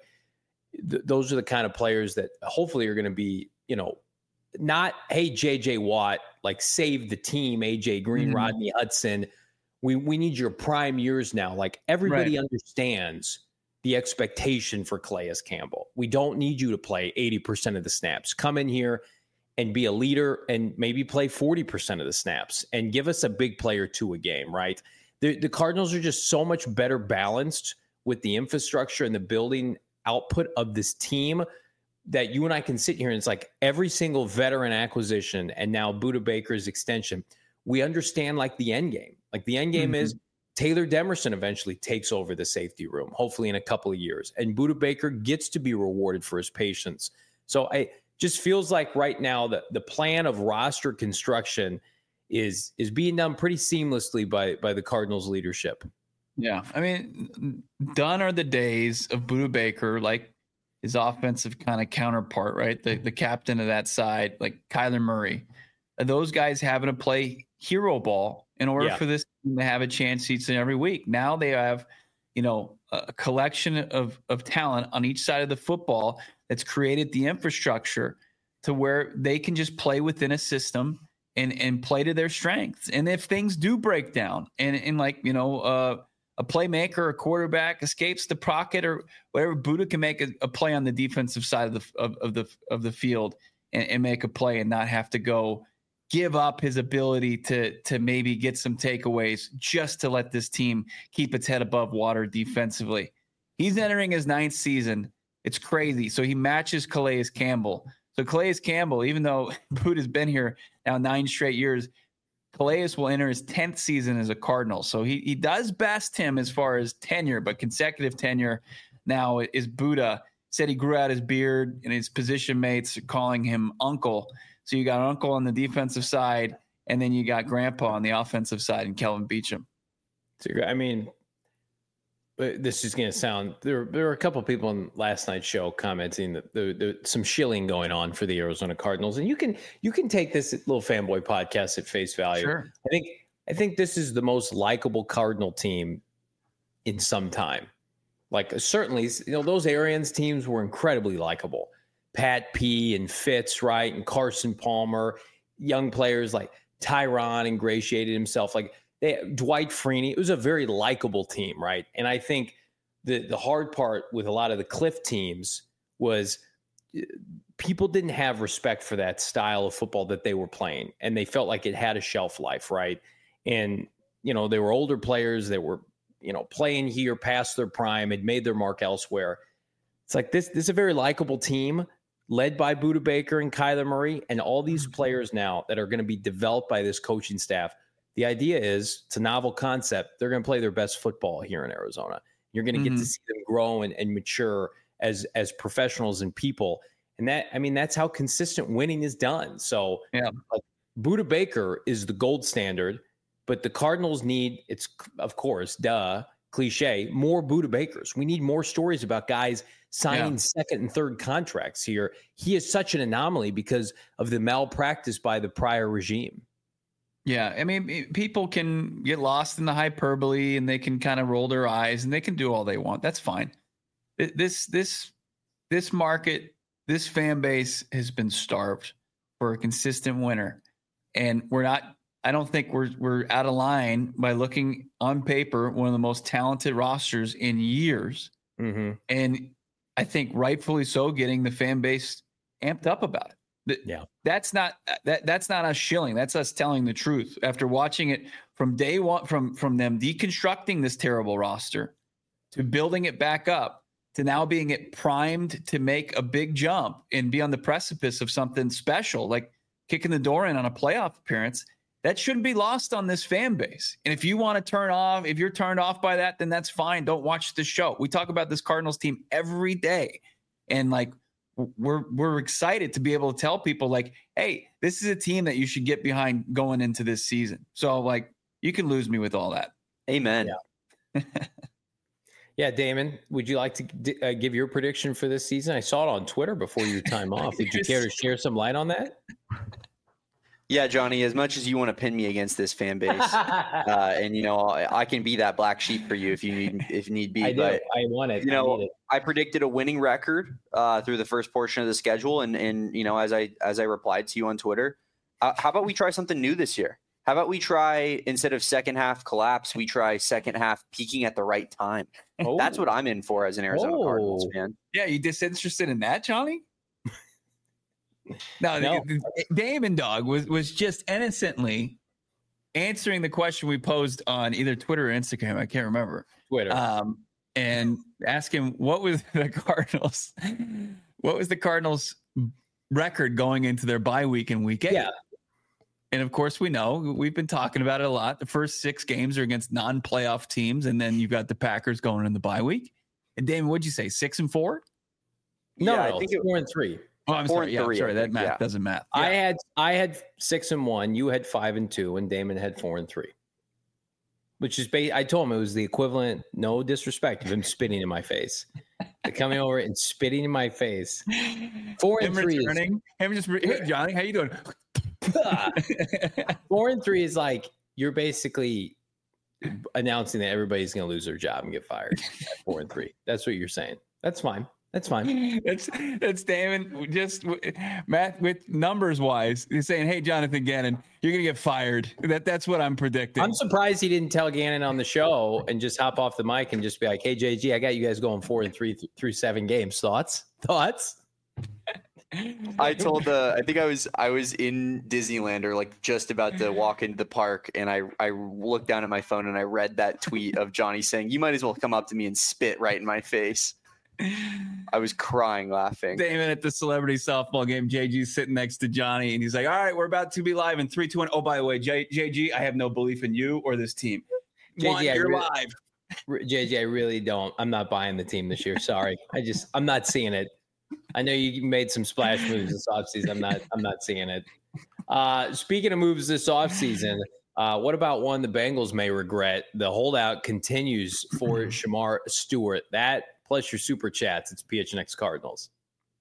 th- those are the kind of players that hopefully are going to be, you know, not, hey, J J Watt, like save the team, A J Green, mm-hmm. Rodney Hudson. We we need your prime years now. Like, everybody right. understands the expectation for Calais Campbell. We don't need you to play eighty percent of the snaps. Come in here and be a leader and maybe play forty percent of the snaps and give us a big play or two a game, right? The, the Cardinals are just so much better balanced with the infrastructure and the building output of this team that you and I can sit here and it's like every single veteran acquisition and now Budda Baker's extension, we understand like the end game. Like the end game mm-hmm. is Taylor Demerson eventually takes over the safety room, hopefully in a couple of years. And Budda Baker gets to be rewarded for his patience. So I just feels like right now that the plan of roster construction is is being done pretty seamlessly by by the Cardinals leadership. Yeah. I mean, done are the days of Budda Baker, like his offensive kind of counterpart, right? The the captain of that side, like Kyler Murray. Those guys having to play hero ball in order yeah. for this team to have a chance each and every week. Now they have, you know, a collection of, of talent on each side of the football that's created the infrastructure to where they can just play within a system and, and play to their strengths. And if things do break down and, and like, you know, uh, a playmaker, a quarterback escapes the pocket or whatever, Budda can make a, a play on the defensive side of the, of, of the, of the field and, and make a play and not have to go give up his ability to to maybe get some takeaways just to let this team keep its head above water defensively. He's entering his ninth season. It's crazy. So he matches Calais Campbell. So Calais Campbell, even though Budda's been here now nine straight years, Calais will enter his tenth season as a Cardinal. So he he does best him as far as tenure, but consecutive tenure now is Budda. Said he grew out his beard and his position mates are calling him uncle. So you got Uncle on the defensive side, and then you got Grandpa on the offensive side and Kelvin Beachum. I mean, this is going to sound there. There were a couple of people on last night's show commenting that there, there's some shilling going on for the Arizona Cardinals, and you can you can take this little fanboy podcast at face value. Sure. I think I think this is the most likable Cardinal team in some time. Like certainly, you know, those Arians teams were incredibly likable. Pat P and Fitz, right, and Carson Palmer, young players like Tyron ingratiated himself, like they, Dwight Freeney. It was a very likable team, right? And I think the the hard part with a lot of the Cliff teams was people didn't have respect for that style of football that they were playing, and they felt like it had a shelf life, right? And you know, they were older players that were, you know, playing here past their prime, had made their mark elsewhere. It's like this, this is a very likable team led by Budda Baker and Kyler Murray and all these players now that are going to be developed by this coaching staff. The idea is it's a novel concept. They're going to play their best football here in Arizona. You're going to get mm-hmm. to see them grow and, and mature as, as professionals and people. And that, I mean, that's how consistent winning is done. So yeah, like, Budda Baker is the gold standard, but the Cardinals need, it's of course, duh, cliche, more Budda Bakers. We need more stories about guys signing yeah. second and third contracts here. He is such an anomaly because of the malpractice by the prior regime. Yeah, I mean, people can get lost in the hyperbole and they can kind of roll their eyes and they can do all they want. That's fine. This this this market, this fan base has been starved for a consistent winner, and we're not. I don't think we're we're out of line by looking on paper one of the most talented rosters in years, mm-hmm. and I think rightfully so, getting the fan base amped up about it. Yeah, that's not that that's not us shilling. That's us telling the truth after watching it from day one, from from them deconstructing this terrible roster to building it back up to now being it primed to make a big jump and be on the precipice of something special, like kicking the door in on a playoff appearance. That shouldn't be lost on this fan base. And if you want to turn off, if you're turned off by that, then that's fine. Don't watch the show. We talk about this Cardinals team every day. And like, we're we're excited to be able to tell people like, hey, this is a team that you should get behind going into this season. So like, you can lose me with all that. Amen. Yeah. Yeah, Damon, would you like to d- uh, give your prediction for this season? I saw it on Twitter before your time off. Would you care to share some light on that? Yeah, Johnny, as much as you want to pin me against this fan base, uh, and, you know, I, I can be that black sheep for you if you need if need be. I do. But, I want it. You know, I, need it. I predicted a winning record uh, through the first portion of the schedule. And, and, you know, as I as I replied to you on Twitter, uh, how about we try something new this year? How about we try, instead of second half collapse, we try second half peaking at the right time? Oh. That's what I'm in for as an Arizona oh. Cardinals fan. Yeah, you disinterested in that, Johnny? No, no. The, the, Damon Dog was, was just innocently answering the question we posed on either Twitter or Instagram. I can't remember. Twitter. Um, and asking what was the Cardinals, what was the Cardinals record going into their bye week in week eight? Yeah. And of course, we know we've been talking about it a lot. The first six games are against non-playoff teams, and then you've got the Packers going in the bye week. And Damon, what'd you say? Six and four? No, yeah, no, I think it, four and three. Oh, I'm four sorry. Yeah, three, sorry. That think, math yeah. doesn't math. Yeah. I had I had six and one. You had five and two, and Damon had four and three. Which is, ba- I told him it was the equivalent. No disrespect of him spitting in my face, coming over and spitting in my face. Four and him three. Returning, is, him just. Hey, Johnny, how you doing? Four and three is like you're basically announcing that everybody's going to lose their job and get fired. At four and three. That's what you're saying. That's fine. That's fine. That's that's Damon. Just math with numbers wise, he's saying, "Hey, Jonathan Gannon, you're gonna get fired." That that's what I'm predicting. I'm surprised he didn't tell Gannon on the show and just hop off the mic and just be like, "Hey, J G, I got you guys going four and three th- through seven games. Thoughts? Thoughts?" I told the I think I was I was in Disneyland or like just about to walk into the park, and I I looked down at my phone and I read that tweet of Johnny saying, "You might as well come up to me and spit right in my face." I was crying laughing. Damon at the celebrity softball game. J G's sitting next to Johnny, and he's like, "All right, we're about to be live in three, two, one. Oh, by the way, J- JG, I have no belief in you or this team. One, J G, you're really, live." J G, I really don't. I'm not buying the team this year. Sorry, I just I'm not seeing it. I know you made some splash moves this offseason. I'm not I'm not seeing it. Uh, speaking of moves this offseason, uh, what about one the Bengals may regret? The holdout continues for Shamar Stewart. That plus your super chats. It's P H N X Cardinals.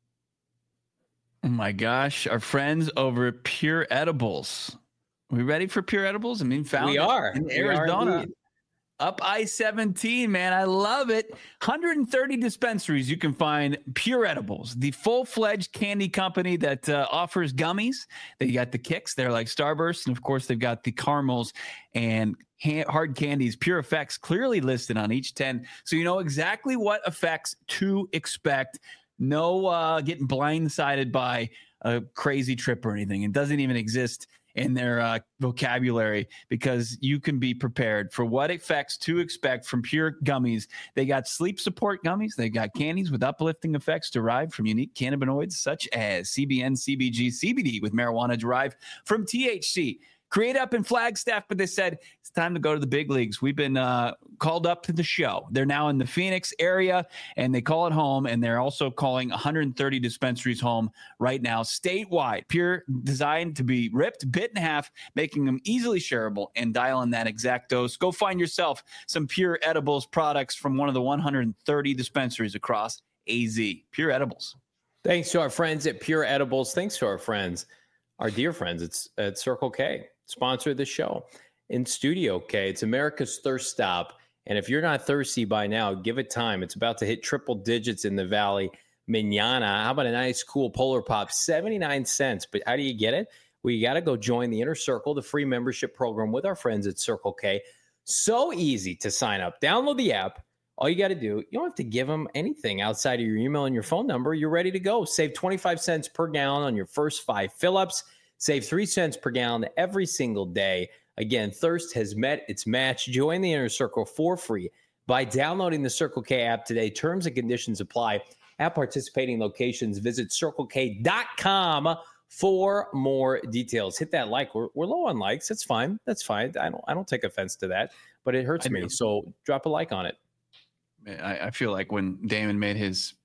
Oh my gosh, our friends over at Pure Edibles. Are we ready for Pure Edibles? I mean, found we are in we Arizona. Are Up I seventeen, man. I love it. one hundred thirty dispensaries you can find Pure Edibles, the full-fledged candy company that uh, offers gummies. They got the kicks. They're like Starbursts. And, of course, they've got the caramels and ha- hard candies. Pure Effects clearly listed on each ten. So you know exactly what effects to expect. No uh, getting blindsided by a crazy trip or anything. It doesn't even exist in their uh, vocabulary, because you can be prepared for what effects to expect from Pure gummies. They got sleep support gummies. They got candies with uplifting effects derived from unique cannabinoids such as C B N, C B G, C B D with marijuana derived from T H C. Create up in Flagstaff, but they said it's time to go to the big leagues. We've been uh, called up to the show. They're now in the Phoenix area, and they call it home, and they're also calling one hundred thirty dispensaries home right now, statewide. Pure, designed to be ripped, bit in half, making them easily shareable, and dial in that exact dose. Go find yourself some Pure Edibles products from one of the one hundred thirty dispensaries across A Z. Pure Edibles. Thanks to our friends at Pure Edibles. Thanks to our friends, our dear friends it's at Circle K. Sponsor the show. In Studio K, it's America's thirst stop. And if you're not thirsty by now, give it time. It's about to hit triple digits in the Valley. Manana. How about a nice, cool Polar Pop? seventy-nine cents. But how do you get it? Well, you got to go join the Inner Circle, the free membership program with our friends at Circle K. So easy to sign up. Download the app. All you got to do, you don't have to give them anything outside of your email and your phone number. You're ready to go. Save twenty-five cents per gallon on your first five fill-ups. Save three cents per gallon every single day. Again, thirst has met its match. Join the Inner Circle for free by downloading the Circle K app today. Terms and conditions apply at participating locations. Visit circle k dot com for more details. Hit that like. We're, we're low on likes. That's fine. That's fine. I don't I don't take offense to that, but it hurts me. So drop a like on it. I, I feel like when Damon made his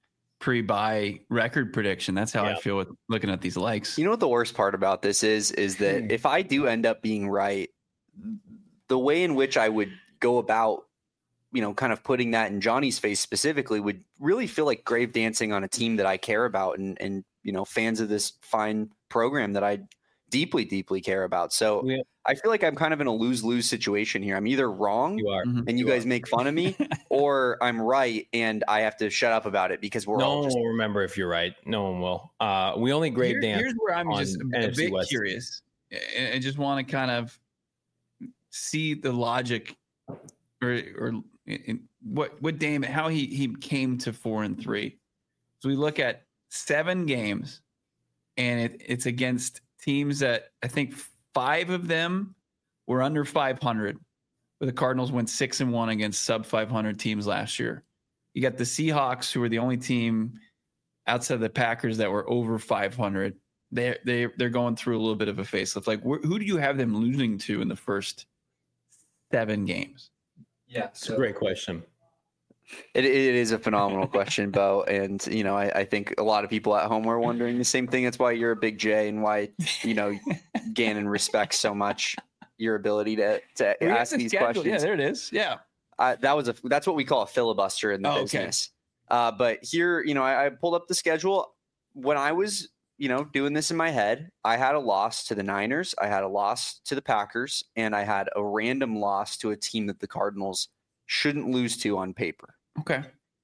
pre-buy record prediction. That's how Yeah. I feel with looking at these likes. You know what the worst part about this is? Is that if I do end up being right, the way in which I would go about, you know, kind of putting that in Johnny's face specifically would really feel like grave dancing on a team that I care about and, and you know, fans of this fine program that I deeply, deeply care about. So Yeah. I feel like I'm kind of in a lose-lose situation here. I'm either wrong You are. Mhm. and you, You guys make fun of me, or I'm right and I have to shut up about it because we're No all one just will remember if you're right. No one will. Uh, we only grade Here- dance. here's where I'm on just a, a N F C bit West. curious and I just want to kind of see the logic or or in what what Dame how he he came to four and three. So we look at seven games, and it, it's against teams that I think five of them were under five hundred. Where the Cardinals went six and one against sub five hundred teams last year. You got the Seahawks, who were the only team outside of the Packers that were over five hundred. They they they're going through a little bit of a facelift. Like, wh- who do you have them losing to in the first seven games? Yeah, It's a great question. It, it is a phenomenal question, Bo. And, you know, I, I think a lot of people at home are wondering the same thing. That's why you're a big J and why, you know, Gannon respects so much your ability to, to We have ask the these schedule. questions. Yeah, there it is. Yeah. Uh, that was a that's what we call a filibuster in the Oh, okay. business. Uh, but here, you know, I, I pulled up the schedule. When I was, you know, doing this in my head, I had a loss to the Niners, I had a loss to the Packers, and I had a random loss to a team that the Cardinals shouldn't lose to on paper. Okay.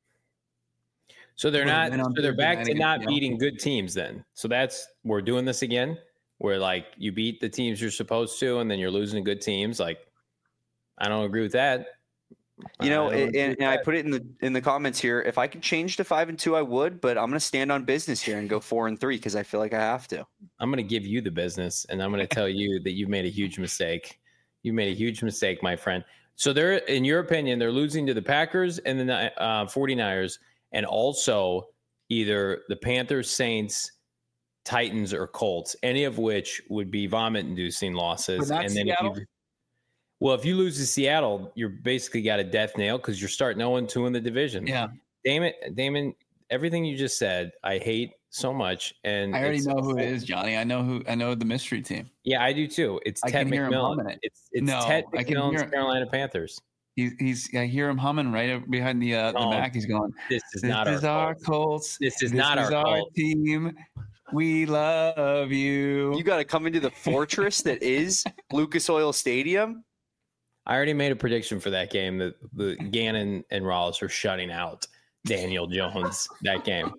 So they're Well, not. then on So they're Thursday back night to against not Seattle. beating good teams. Then. So that's we're doing this again. Where like you beat the teams you're supposed to, and then you're losing to good teams. Like I don't agree with that. You know, I don't and, agree and, with and I that. put it in the in the comments here. If I could change to five and two, I would. But I'm going to stand on business here and go four and three because I feel like I have to. I'm going to give you the business, and I'm going to tell you that you've made a huge mistake. You made a huge mistake, my friend. So they're, in your opinion, they're losing to the Packers and the uh, 49ers, and also either the Panthers, Saints, Titans, or Colts, any of which would be vomit-inducing losses. But not and then Seattle? if you, well, if you lose to Seattle, you're basically got a death nail because you're starting oh and two in the division. Yeah. Damon, Damon, everything you just said, I hate so much. And I already it's- know who it is, Johnny. I know who I know the mystery team. Yeah, I do too. It's I Ted can hear him McMillan. humming it. It's it's No, Ted I can McMillan's hear it. Carolina Panthers. He's he's I hear him humming right up behind the uh, the No, Mac. He's going, This is This not is our, our fault. Colts. This is This not is our our fault. team. We love you. You got to come into the fortress that is Lucas Oil Stadium. I already made a prediction for that game that the Gannon and Rollins are shutting out Daniel Jones that game.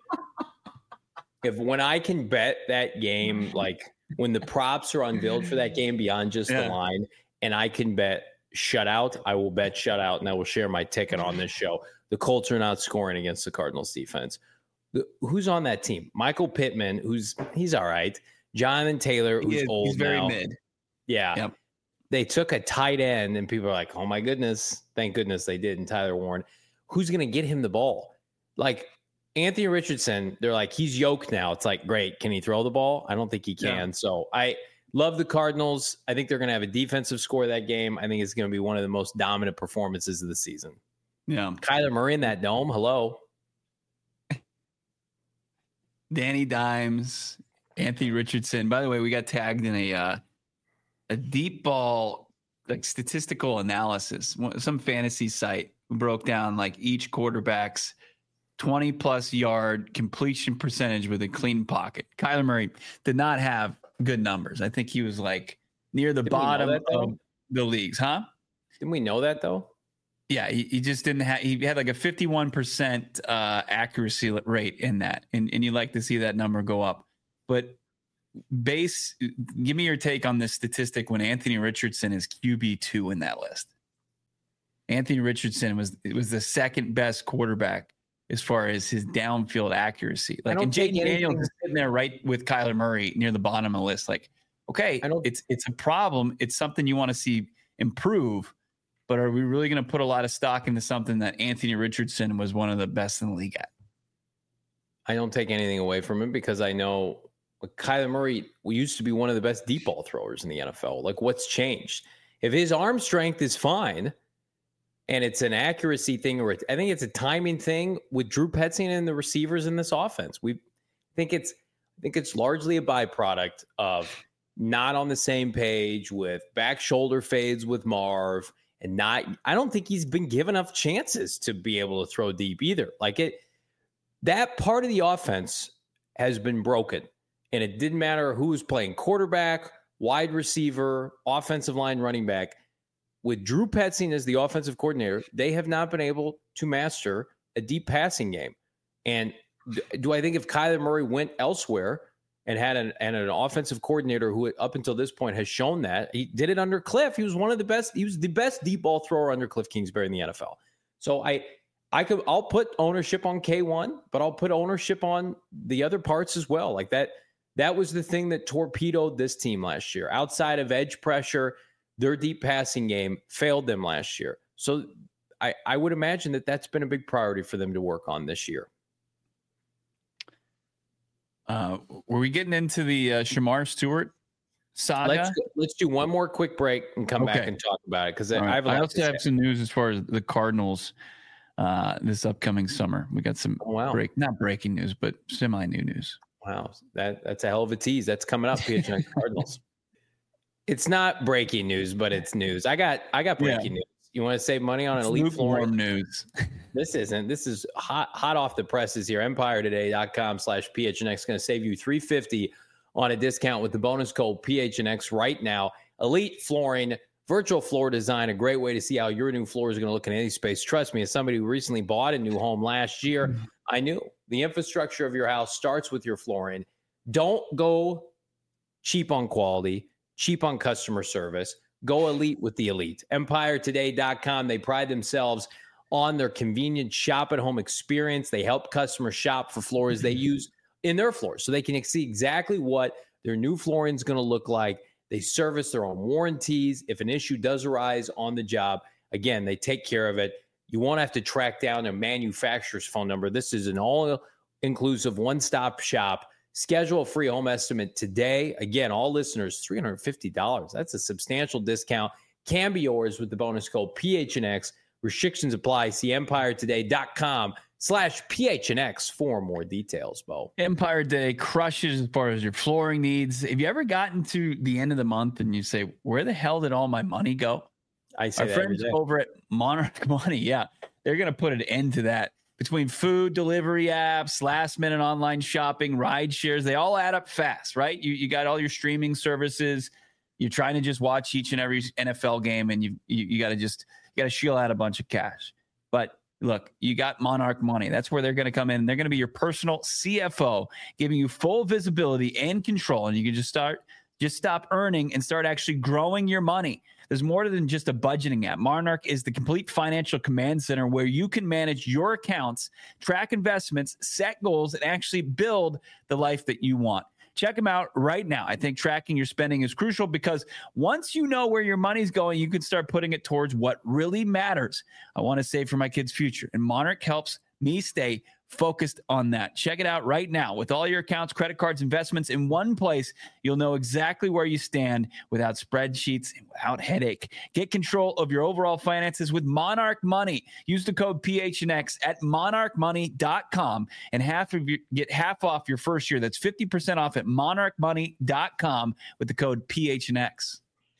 If when I can bet that game, like when the props are unveiled for that game beyond just Yeah. the line, and I can bet shutout, I will bet shutout, and I will share my ticket on this show. The Colts are not scoring against the Cardinals defense. The, who's on that team? Michael Pittman, who's he's all right. Jonathan Taylor, He who's is- old he's very now. mid. Yeah. Yep. They took a tight end, and people are like, oh my goodness. Thank goodness they did. And Tyler Warren, who's going to get him the ball? Like Anthony Richardson, they're like, he's yoked now. It's like, great. Can he throw the ball? I don't think he can. Yeah. So I love the Cardinals. I think they're going to have a defensive score that game. I think it's going to be one of the most dominant performances of the season. Yeah. Kyler Murray in that dome. Hello. Danny Dimes, Anthony Richardson. By the way, we got tagged in a uh, a deep ball like statistical analysis. One- Some fantasy site broke down like each quarterback's twenty plus yard completion percentage with a clean pocket. Kyler Murray did not have good numbers. I think he was like near the Didn't we know bottom that, though? of the leagues, huh? Didn't we know that though? Yeah, he, he just didn't have. He had like a fifty-one percent uh, accuracy rate in that, and and you like to see that number go up. But base, give me your take on this statistic when Anthony Richardson is Q B two in that list. Anthony Richardson was it was the second best quarterback as far as his downfield accuracy. Like, don't and take Jaden Daniels anything- is sitting there right with Kyler Murray near the bottom of the list. Like, okay, I don't- it's it's a problem. It's something you want to see improve. But are we really going to put a lot of stock into something that Anthony Richardson was one of the best in the league at? I don't take anything away from him because I know like, Kyler Murray we used to be one of the best deep ball throwers in the N F L. Like, what's changed? If his arm strength is fine, and it's an accuracy thing, or I think it's a timing thing with Drew Petzing and the receivers in this offense. We think it's I think it's largely a byproduct of not on the same page with back shoulder fades with Marv, and not. I don't think he's been given enough chances to be able to throw deep either. Like it, that part of the offense has been broken, and it didn't matter who was playing quarterback, wide receiver, offensive line, running back. With Drew Petzing as the offensive coordinator, they have not been able to master a deep passing game. And do I think if Kyler Murray went elsewhere and had an, and an offensive coordinator who up until this point has shown that, he did it under Cliff. He was one of the best. He was the best deep ball thrower under Cliff Kingsbury in the N F L. So I, I could, I'll put ownership on K one, but I'll put ownership on the other parts as well. Like that, that was the thing that torpedoed this team last year. Outside of edge pressure, their deep passing game failed them last year. So I, I would imagine that that's been a big priority for them to work on this year. Uh, were we getting into the uh, Shemar Stewart saga? Let's, let's do one more quick break and come okay. back and talk about it. Because right. I, have a I lot also have some news as far as the Cardinals uh, this upcoming summer. We got some oh, wow. break, not breaking news, but semi new news. Wow, that that's a hell of a tease. That's coming up, P H N X Cardinals. It's not breaking news, but it's news. I got I got breaking yeah. news. You want to save money on an it's elite flooring news? This isn't. This is hot hot off the presses here. Empire Today dot com slash P H N X is going to save you three hundred fifty dollars on a discount with the bonus code P H N X right now. Elite Flooring, virtual floor design, a great way to see how your new floor is going to look in any space. Trust me, as somebody who recently bought a new home last year, mm-hmm. I knew the infrastructure of your house starts with your flooring. Don't go cheap on quality, cheap on customer service. Go elite with the elite. Empire Today dot com. They pride themselves on their convenient shop at home experience. They help customers shop for floors they use in their floors so they can see exactly what their new flooring is going to look like. They service their own warranties. If an issue does arise on the job, again, they take care of it. You won't have to track down a manufacturer's phone number. This is an all-inclusive one-stop shop. Schedule a free home estimate today. Again, all listeners, three hundred fifty dollars. That's a substantial discount. Can be yours with the bonus code P H N X. Restrictions apply. See Empire Today dot com slash P H N X for more details, Bo. Empire Day crushes as far as your flooring needs. Have you ever gotten to the end of the month and you say, where the hell did all my money go? I say Our that friends over at Monarch Money, yeah, they're going to put an end to that. Between food delivery apps, last minute online shopping, ride shares, they all add up fast, right? You you got all your streaming services. You're trying to just watch each and every N F L game, and you you, you got to just you got to shield out a bunch of cash. But look, you got Monarch Money. That's where they're going to come in. They're going to be your personal C F O, giving you full visibility and control, and you can just start just stop earning and start actually growing your money. There's more than just a budgeting app. Monarch is the complete financial command center where you can manage your accounts, track investments, set goals, and actually build the life that you want. Check them out right now. I think tracking your spending is crucial because once you know where your money's going, you can start putting it towards what really matters. I want to save for my kids' future, and Monarch helps me stay focused on that. Check it out right now. With all your accounts, credit cards, investments in one place, you'll know exactly where you stand without spreadsheets and without headache. Get control of your overall finances with Monarch Money. Use the code P H N X at monarch money dot com and half of your, get half off your first year. That's fifty percent off at monarch money dot com with the code P H N X.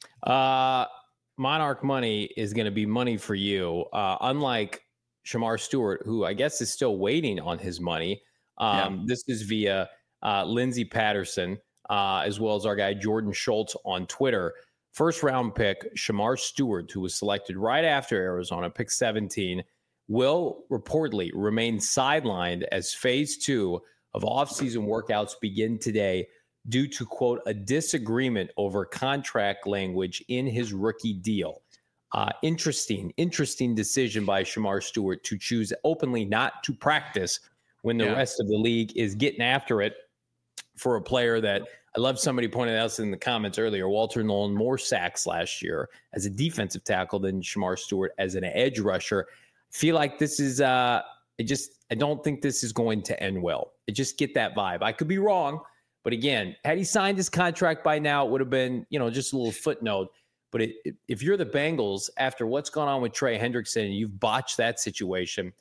Uh, Monarch Money is going to be money for you. Uh, unlike Shemar Stewart, who I guess is still waiting on his money. Um, yeah. This is via uh, Lindsey Patterson, uh, as well as our guy Jordan Schultz on Twitter. First round pick, Shemar Stewart, who was selected right after Arizona, pick seventeen, will reportedly remain sidelined as phase two of offseason workouts begin today due to, quote, a disagreement over contract language in his rookie deal. Uh, interesting, interesting decision by Shemar Stewart to choose openly not to practice when the yeah. rest of the league is getting after it for a player that I love. Somebody pointed out in the comments earlier, Walter Nolan more sacks last year as a defensive tackle than Shemar Stewart as an edge rusher. I feel like this is, uh, I just, I don't think this is going to end well. I just get that vibe. I could be wrong, but again, had he signed his contract by now, it would have been, you know, just a little footnote. But it, it, if you're the Bengals, after what's gone on with Trey Hendrickson and you've botched that situation,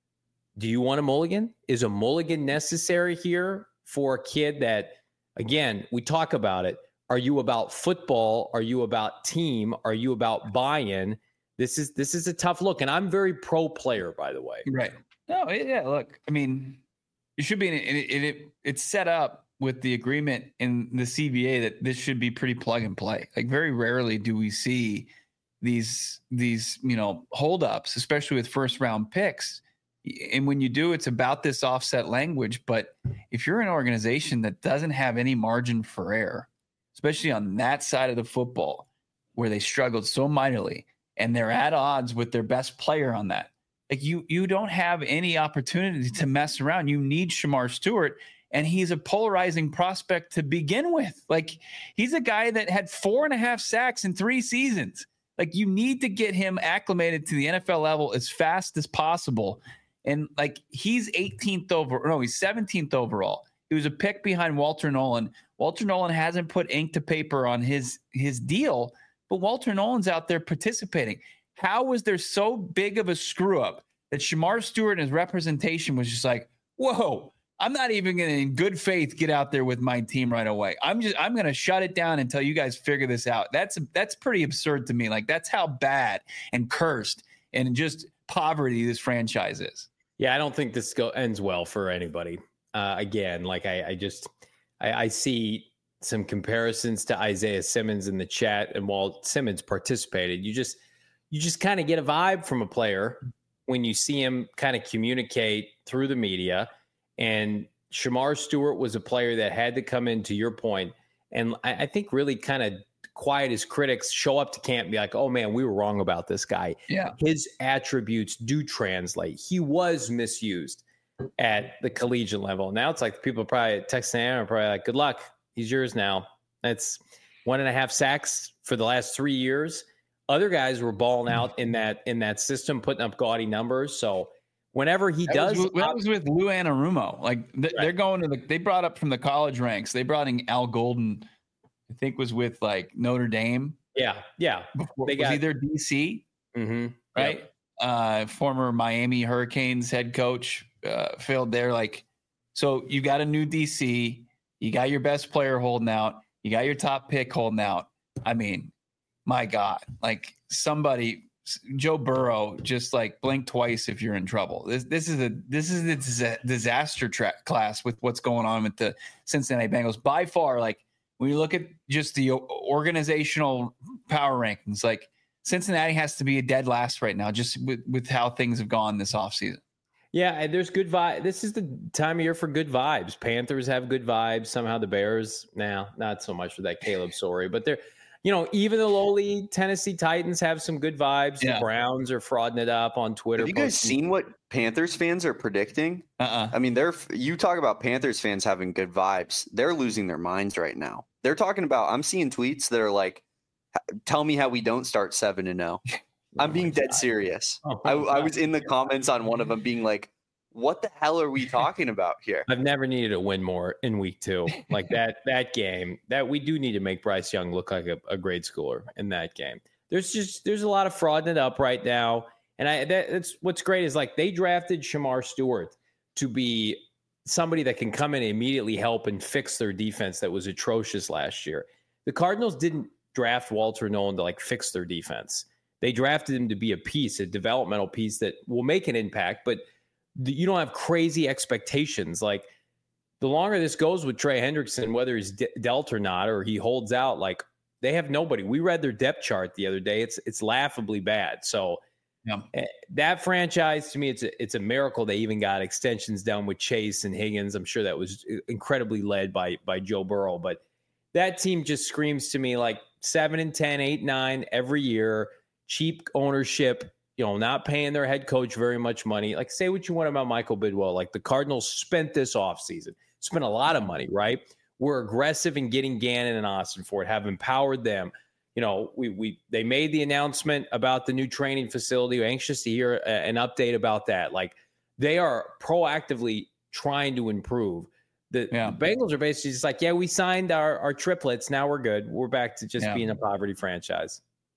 do you want a mulligan? Is a mulligan necessary here for a kid that, again, we talk about it. Are you about football? Are you about team? Are you about buy-in? This is this is a tough look, and I'm very pro player, by the way. Right. No, yeah. Look, I mean, it should be. An, it, it it's set up with the agreement in the C B A that this should be pretty plug and play. Like very rarely do we see these these you know holdups, especially with first round picks. And when you do, it's about this offset language. But if you're an organization that doesn't have any margin for error, especially on that side of the football where they struggled so mightily, and they're at odds with their best player on that, like you you don't have any opportunity to mess around. You need Shamar Stewart, and he's a polarizing prospect to begin with. Like he's a guy that had four and a half sacks in three seasons. Like you need to get him acclimated to the N F L level as fast as possible. And like he's eighteenth over, no, he's seventeenth overall. He was a pick behind Walter Nolan. Walter Nolan hasn't put ink to paper on his his deal, but Walter Nolan's out there participating. How was there so big of a screw up that Shamar Stewart and his representation was just like, whoa, I'm not even going to in good faith get out there with my team right away. I'm just I'm going to shut it down until you guys figure this out. That's that's pretty absurd to me. Like that's how bad and cursed and just poverty this franchise is. Yeah, I don't think this go ends well for anybody. Uh, again, like I, I just I, I see some comparisons to Isaiah Simmons in the chat, and while Simmons participated, you just you just kind of get a vibe from a player when you see him kind of communicate through the media. And Shamar Stewart was a player that had to come in, to your point, and I, I think really kind of quiet his critics, show up to camp and be like, oh man, we were wrong about this guy. Yeah. His attributes do translate. He was misused at the collegiate level. Now it's like people probably texting him are probably like, good luck. He's yours now. That's one and a half sacks for the last three years. Other guys were balling out in that in that system, putting up gaudy numbers. So whenever he that does, was, that was with Lou Anarumo. Like th- right. They're going to the. They brought up from the college ranks. They brought in Al Golden. I think was with like Notre Dame. Yeah, yeah. Before, they was got either D C, mm-hmm. right? Yep. Uh, former Miami Hurricanes head coach uh, failed there. Like, so you got a new D C. You got your best player holding out. You got your top pick holding out. I mean, my God, like somebody, Joe Burrow, just like blink twice if you're in trouble. This this is a this is a disaster tra- class with what's going on with the Cincinnati Bengals. By far, like when you look at just the organizational power rankings, like Cincinnati has to be a dead last right now, just with, with how things have gone this offseason. Yeah, and there's good vibe. This is the time of year for good vibes. Panthers have good vibes. Somehow the Bears, now nah, not so much with that Caleb story, but they're, you know, even the lowly Tennessee Titans have some good vibes. Yeah. The Browns are frauding it up on Twitter. Have you guys posting. seen what Panthers fans are predicting? Uh-uh. I mean, they're you talk about Panthers fans having good vibes. They're losing their minds right now. They're talking about, I'm seeing tweets that are like, tell me how we don't start seven and oh. I'm oh being dead God. serious. Oh I, I was in the comments on one of them being like, what the hell are we talking about here? I've never needed a win more in week two. Like that that game, that we do need to make Bryce Young look like a, a grade schooler in that game. There's just there's a lot of fraud it up right now. And I that, that's what's great is like they drafted Shamar Stewart to be somebody that can come in and immediately help and fix their defense that was atrocious last year. The Cardinals didn't draft Walter Nolan to like fix their defense. They drafted him to be a piece, a developmental piece that will make an impact, but you don't have crazy expectations. Like the longer this goes with Trey Hendrickson, whether he's de- dealt or not, or he holds out, like they have nobody. We read their depth chart the other day. It's, it's laughably bad. So yeah. That franchise to me, it's a, it's a miracle. They even got extensions done with Chase and Higgins. I'm sure that was incredibly led by, by Joe Burrow, but that team just screams to me like seven and ten, eight, nine every year, cheap ownership, you know, not paying their head coach very much money. Like, say what you want about Michael Bidwell. Like, the Cardinals spent this offseason, spent a lot of money, right? We're aggressive in getting Gannon and Austin Ford, have empowered them. You know, we we they made the announcement about the new training facility. We're anxious to hear a, an update about that. Like, they are proactively trying to improve. The, yeah. the Bengals are basically just like, yeah, we signed our, our triplets. Now we're good. We're back to just yeah. being a poverty franchise.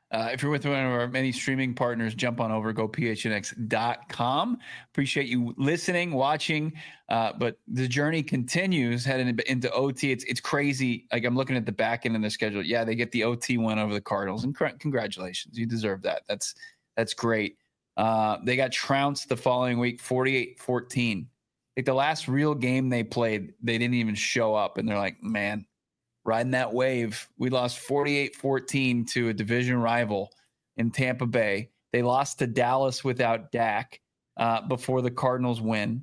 Uh, if you're with one of our many streaming partners, jump on over, go P H N X dot com. Appreciate you listening, watching. Uh, but the journey continues heading into O T. It's it's crazy. Like I'm looking at the back end of the schedule. Yeah, they get the O T win over the Cardinals, and cr- congratulations, you deserve that. That's that's great. Uh, they got trounced the following week, forty-eight fourteen. Like the last real game they played, they didn't even show up, and they're like, man, riding that wave. We lost forty-eight fourteen to a division rival in Tampa Bay. They lost to Dallas without Dak uh, before the Cardinals win.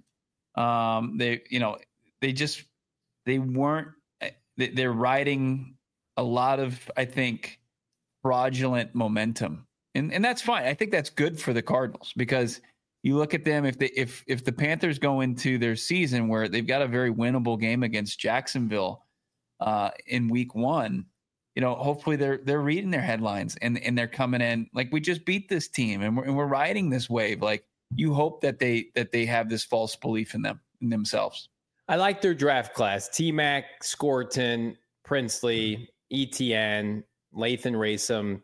Um, they, you know, they just they weren't. They, they're riding a lot of, I think, fraudulent momentum, and and that's fine. I think that's good for the Cardinals because you look at them. If they if if the Panthers go into their season where they've got a very winnable game against Jacksonville uh, in week one, you know, hopefully they're they're reading their headlines and and they're coming in like, we just beat this team and we're and we're riding this wave. Like you hope that they that they have this false belief in them in themselves. I like their draft class: T-Mac, Scorton, Princely, E T N, Lathan Racem,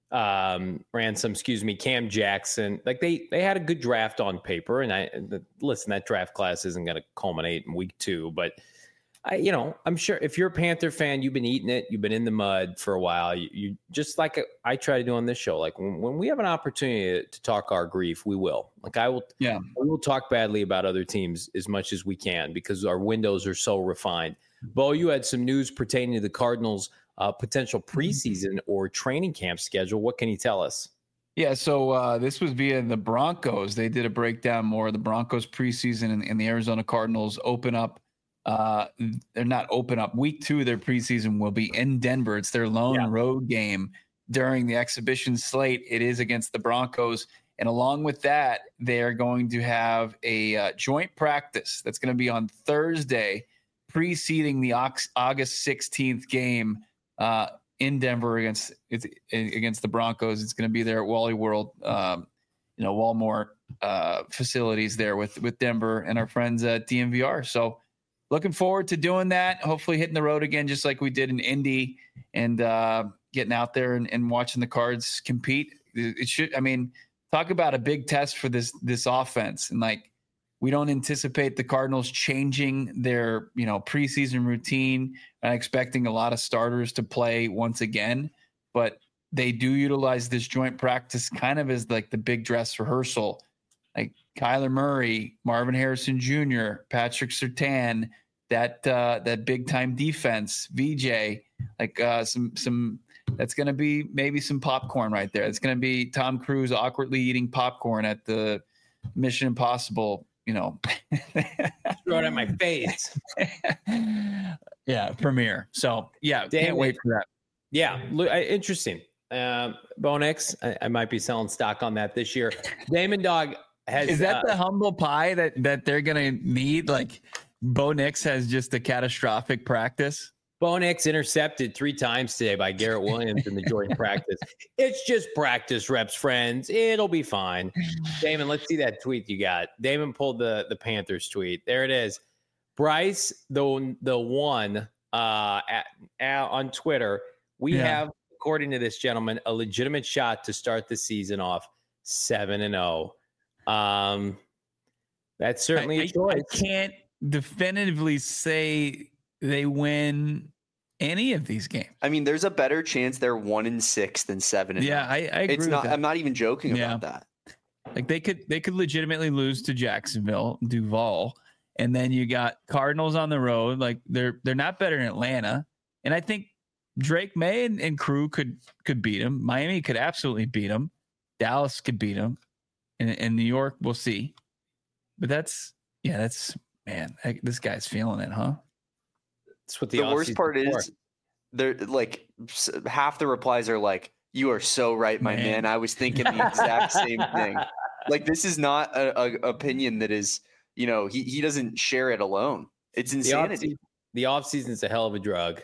um, Ransom, excuse me, Cam Jackson. Like they they had a good draft on paper, and I the, listen. That draft class isn't going to culminate in week two, but I, you know, I'm sure if you're a Panther fan, you've been eating it, you've been in the mud for a while. You, you just like I try to do on this show. Like when, when we have an opportunity to, to talk our grief, we will. Like I will, yeah, we will talk badly about other teams as much as we can because our windows are so refined. Bo, you had some news pertaining to the Cardinals' uh, potential preseason or training camp schedule. What can you tell us? Yeah, so uh, this was via the Broncos. They did a breakdown more of the Broncos preseason, and, and the Arizona Cardinals open up. Uh, they're not open up. Week two of their preseason will be in Denver. It's their lone yeah. road game during the exhibition slate. It is against the Broncos. And along with that, they are going to have a uh, joint practice that's going to be on Thursday, preceding the August sixteenth game uh, in Denver against it's, against the Broncos. It's going to be there at Wally World, um, you know, Walmart uh, facilities there with, with Denver and our friends at D M V R. So, looking forward to doing that. Hopefully hitting the road again, just like we did in Indy, and uh, getting out there and, and watching the Cards compete. It should, I mean, talk about a big test for this, this offense. And like, we don't anticipate the Cardinals changing their, you know, preseason routine and expecting a lot of starters to play once again, but they do utilize this joint practice kind of as like the big dress rehearsal. Like Kyler Murray, Marvin Harrison Junior, Patrick Surtain, that uh, that big time defense, V J, like uh, some some that's going to be maybe some popcorn right there. It's going to be Tom Cruise awkwardly eating popcorn at the Mission Impossible, you know, throw it at my face. Yeah, premiere. So yeah, Damn can't it. wait for that. Yeah, look, interesting. Uh, Bonix, I, I might be selling stock on that this year. Damon Dog. Has, Is that uh, the humble pie that, that they're going to need? Like Bo Nix has just a catastrophic practice. Bo Nix intercepted three times today by Garrett Williams in the joint practice. It's just practice reps, friends. It'll be fine. Damon, let's see that tweet you got. Damon pulled the, the Panthers tweet. There it is. Bryce, the, the one uh, at, at, on Twitter, we yeah. have, according to this gentleman, a legitimate shot to start the season off seven and oh. Um, that's certainly I, a choice. I can't definitively say they win any of these games. I mean, there's a better chance they're one and six than seven. And yeah, I, I agree. It's with not. that. I'm not even joking yeah. about that. Like they could, they could legitimately lose to Jacksonville, Duval, and then you got Cardinals on the road. Like they're they're not better than Atlanta, and I think Drake May and, and crew could could beat them. Miami could absolutely beat them. Dallas could beat them. In, in New York, we'll see. But that's, yeah, that's, man, I, this guy's feeling it, huh? That's what the, the worst part before. is, they're like, half the replies are like, you are so right, my man. man. I was thinking the exact same thing. Like, this is not a, a opinion that is, you know, he, he doesn't share it alone. It's insanity. The off season is a hell of a drug.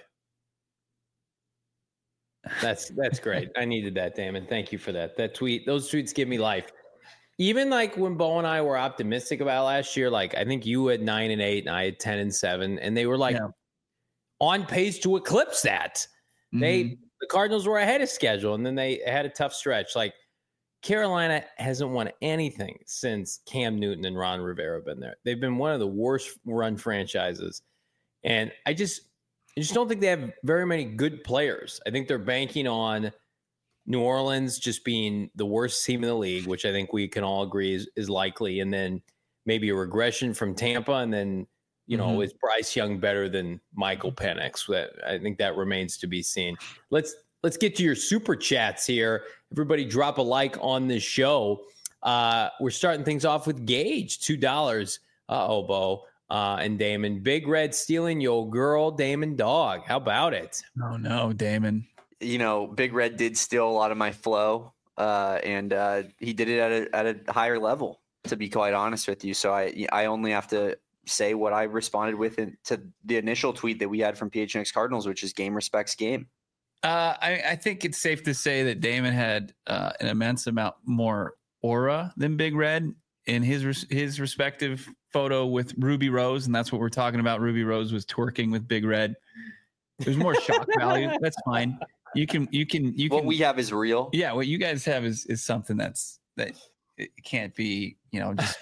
That's, that's great. I needed that, Damon. Thank you for that. That tweet, those tweets give me life. Even like when Bo and I were optimistic about last year, like I think you had nine and eight and I had ten and seven, and they were like yeah. on pace to eclipse that. Mm-hmm. They the Cardinals were ahead of schedule, and then they had a tough stretch. Like Carolina hasn't won anything since Cam Newton and Ron Rivera have been there. They've been one of the worst run franchises, and I just, I just don't think they have very many good players. I think they're banking on New Orleans just being the worst team in the league, which I think we can all agree is, is likely, and then maybe a regression from Tampa, and then you know, mm-hmm. is Bryce Young better than Michael Penix? I think that remains to be seen. Let's let's get to your super chats here. Everybody drop a like on this show. Uh, we're starting things off with Gage, two dollars. Uh-oh, Bo. Uh, and Damon. Big Red stealing your girl, Damon Dog. How about it? Oh, no, Damon. You know, Big Red did steal a lot of my flow, uh, and uh, he did it at a, at a higher level, to be quite honest with you. So I I only have to say what I responded with in, to the initial tweet that we had from P H N X Cardinals, which is game respects game. Uh, I, I think it's safe to say that Damon had uh, an immense amount more aura than Big Red in his his respective photo with Ruby Rose, and that's what we're talking about. Ruby Rose was twerking with Big Red. There's more shock value. That's fine. You can you can you can. What we have is real. Yeah, what you guys have is is something that's that it can't be, you know, just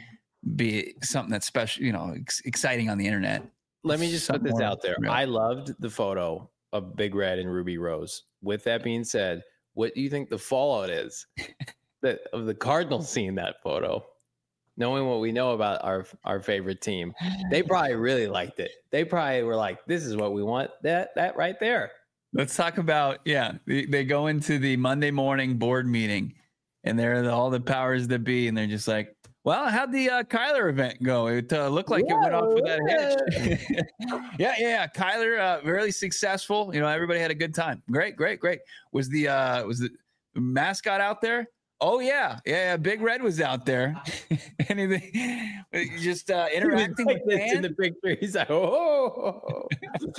be something that's special, you know, ex- exciting on the internet. Let me just put this out there. Real. I loved the photo of Big Red and Ruby Rose. With that being said, what do you think the fallout is that of the Cardinals seeing that photo? Knowing what we know about our our favorite team, they probably really liked it. They probably were like, "This is what we want." That that right there. Let's talk about yeah. They, they go into the Monday morning board meeting, and they're the, all the powers that be, and they're just like, "Well, how'd the uh, Kyler event go? It uh, looked like Whoa, it went off with that hitch." yeah, yeah, yeah. Kyler, uh, really successful. You know, everybody had a good time. Great, great, great. Was the uh, was the mascot out there? Oh yeah, yeah. yeah. Big Red was out there. Anything? Just uh, interacting like with fans in the picture. He's like, oh.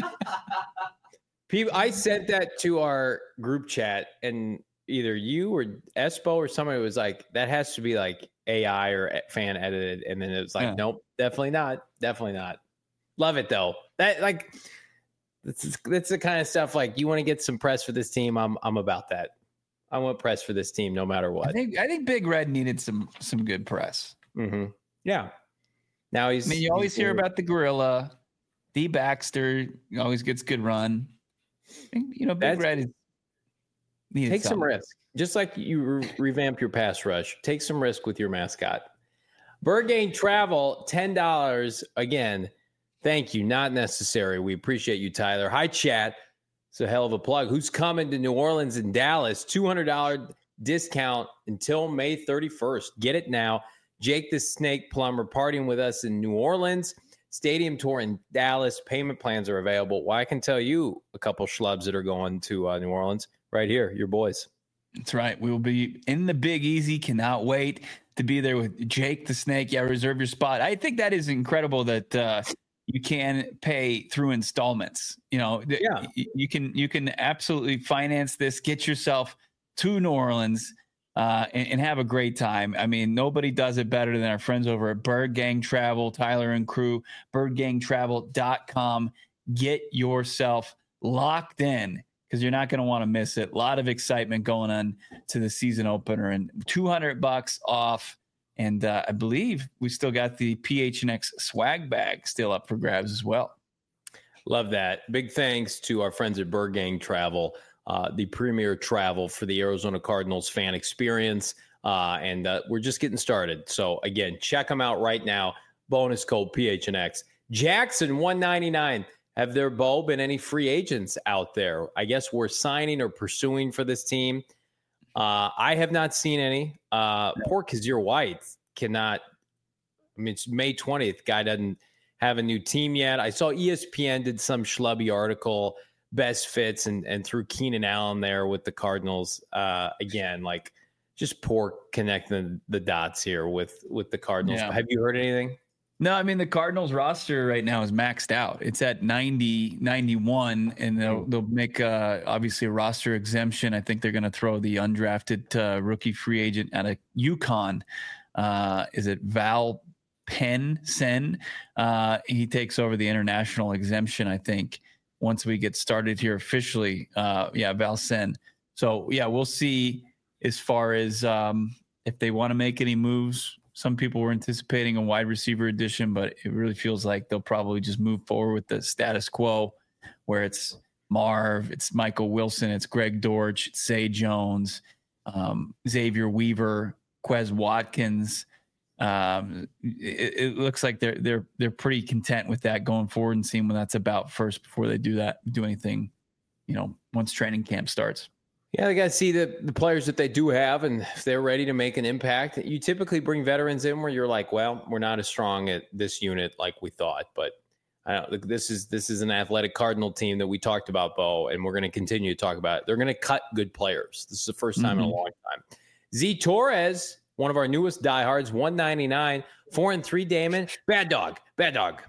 People, I sent that to our group chat, and either you or Espo or somebody was like, "That has to be like A I or fan edited," and then it was like, yeah. "Nope, definitely not, definitely not." Love it though. That like, that's that's the kind of stuff like you want to get some press for this team. I'm I'm about that. I want press for this team no matter what. I think I think Big Red needed some some good press. Mm-hmm. Yeah. Now he's. I mean, you always hear forward. about the gorilla, D. Baxter always gets good run. And, you know, Big That's, Red is needed take something. some risk, just like you re- revamp your pass rush. Take some risk with your mascot. Burgain Travel, ten dollars again. Thank you. Not necessary. We appreciate you, Tyler. Hi, chat. It's a hell of a plug. Who's coming to New Orleans and Dallas? two hundred dollars discount until May thirty-first. Get it now. Jake the Snake Plumber partying with us in New Orleans. Stadium tour in Dallas. Payment plans are available. Well, I can tell you a couple schlubs that are going to uh, New Orleans right here. Your boys. That's right. We will be in the Big Easy. Cannot wait to be there with Jake the Snake. Yeah, reserve your spot. I think that is incredible that uh, you can pay through installments. You know, yeah. you can you can absolutely finance this. Get yourself to New Orleans uh, and, and have a great time. I mean, nobody does it better than our friends over at Bird Gang Travel, Tyler and crew, bird gang travel dot com. Get yourself locked in because you're not going to want to miss it. A lot of excitement going on to the season opener, and two hundred bucks off. And uh, I believe we still got the P H N X swag bag still up for grabs as well. Love that. Big thanks to our friends at Bird Gang Travel, uh, the premier travel for the Arizona Cardinals fan experience. Uh, and uh, we're just getting started. So, again, check them out right now. Bonus code P H N X. Jackson, one ninety-nine. Have there, Bo, been any free agents out there? I guess we're signing or pursuing for this team. Uh, I have not seen any. Uh, poor Kazir White cannot. I mean, it's May twentieth. Guy doesn't have a new team yet. I saw E S P N did some schlubby article, best fits, and and threw Keenan Allen there with the Cardinals. Uh, again, like just poor connecting the dots here with with the Cardinals. Yeah. Have you heard anything? No, I mean, the Cardinals roster right now is maxed out. It's at ninety, ninety-one, and they'll, they'll make uh, obviously a roster exemption. I think they're going to throw the undrafted uh, rookie free agent out of UConn. Uh, is it Val Penn Sen? Uh, he takes over the international exemption, I think. once we get started here officially. Uh, yeah, Valcin. So yeah, we'll see as far as um, if they want to make any moves. Some people were anticipating a wide receiver addition, but it really feels like they'll probably just move forward with the status quo, where it's Marv, it's Michael Wilson, it's Greg Dortch, it's Zay Jones, um, Xavier Weaver, Quez Watkins. Um, it, it looks like they're they're they're pretty content with that going forward and seeing what that's about first before they do that, do anything, you know, once training camp starts. Yeah, they got to see the, the players that they do have, and if they're ready to make an impact. You typically bring veterans in where you're like, well, we're not as strong at this unit like we thought, but I don't, this is this is an athletic Cardinal team that we talked about, Bo, and we're going to continue to talk about it. They're going to cut good players. This is the first time mm-hmm. in a long time. Z Torres, one of our newest diehards, one ninety-nine, four and three. Damon, bad dog, bad dog.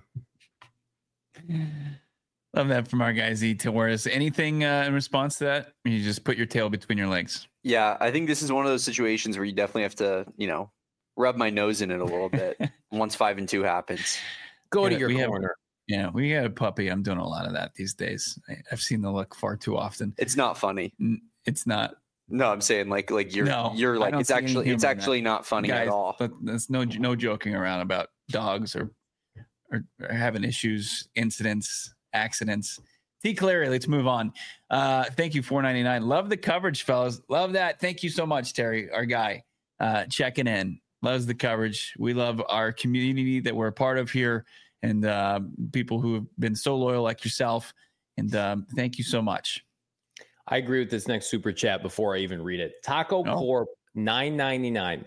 Love that from our guy Z Torres. Anything uh, in response to that? You just put your tail between your legs. Yeah, I think this is one of those situations where you definitely have to, you know, rub my nose in it a little bit once five and two happens. Go yeah, to your corner. Have, yeah, we got a puppy. I'm doing a lot of that these days. I, I've seen the look far too often. It's not funny. It's not. No, I'm saying like like you're no, you're like it's actually it's actually not funny Guys, at all. But there's no no joking around about dogs or or, or having issues, incidents, accidents. T. Clary, let's move on. Uh, thank you, four ninety-nine. Love the coverage, fellas. Love that. Thank you so much, Terry, our guy, uh, checking in. Loves the coverage. We love our community that we're a part of here, and uh, people who have been so loyal like yourself. And um, thank you so much. I agree with this next super chat before I even read it. Taco oh. Corp nine ninety-nine.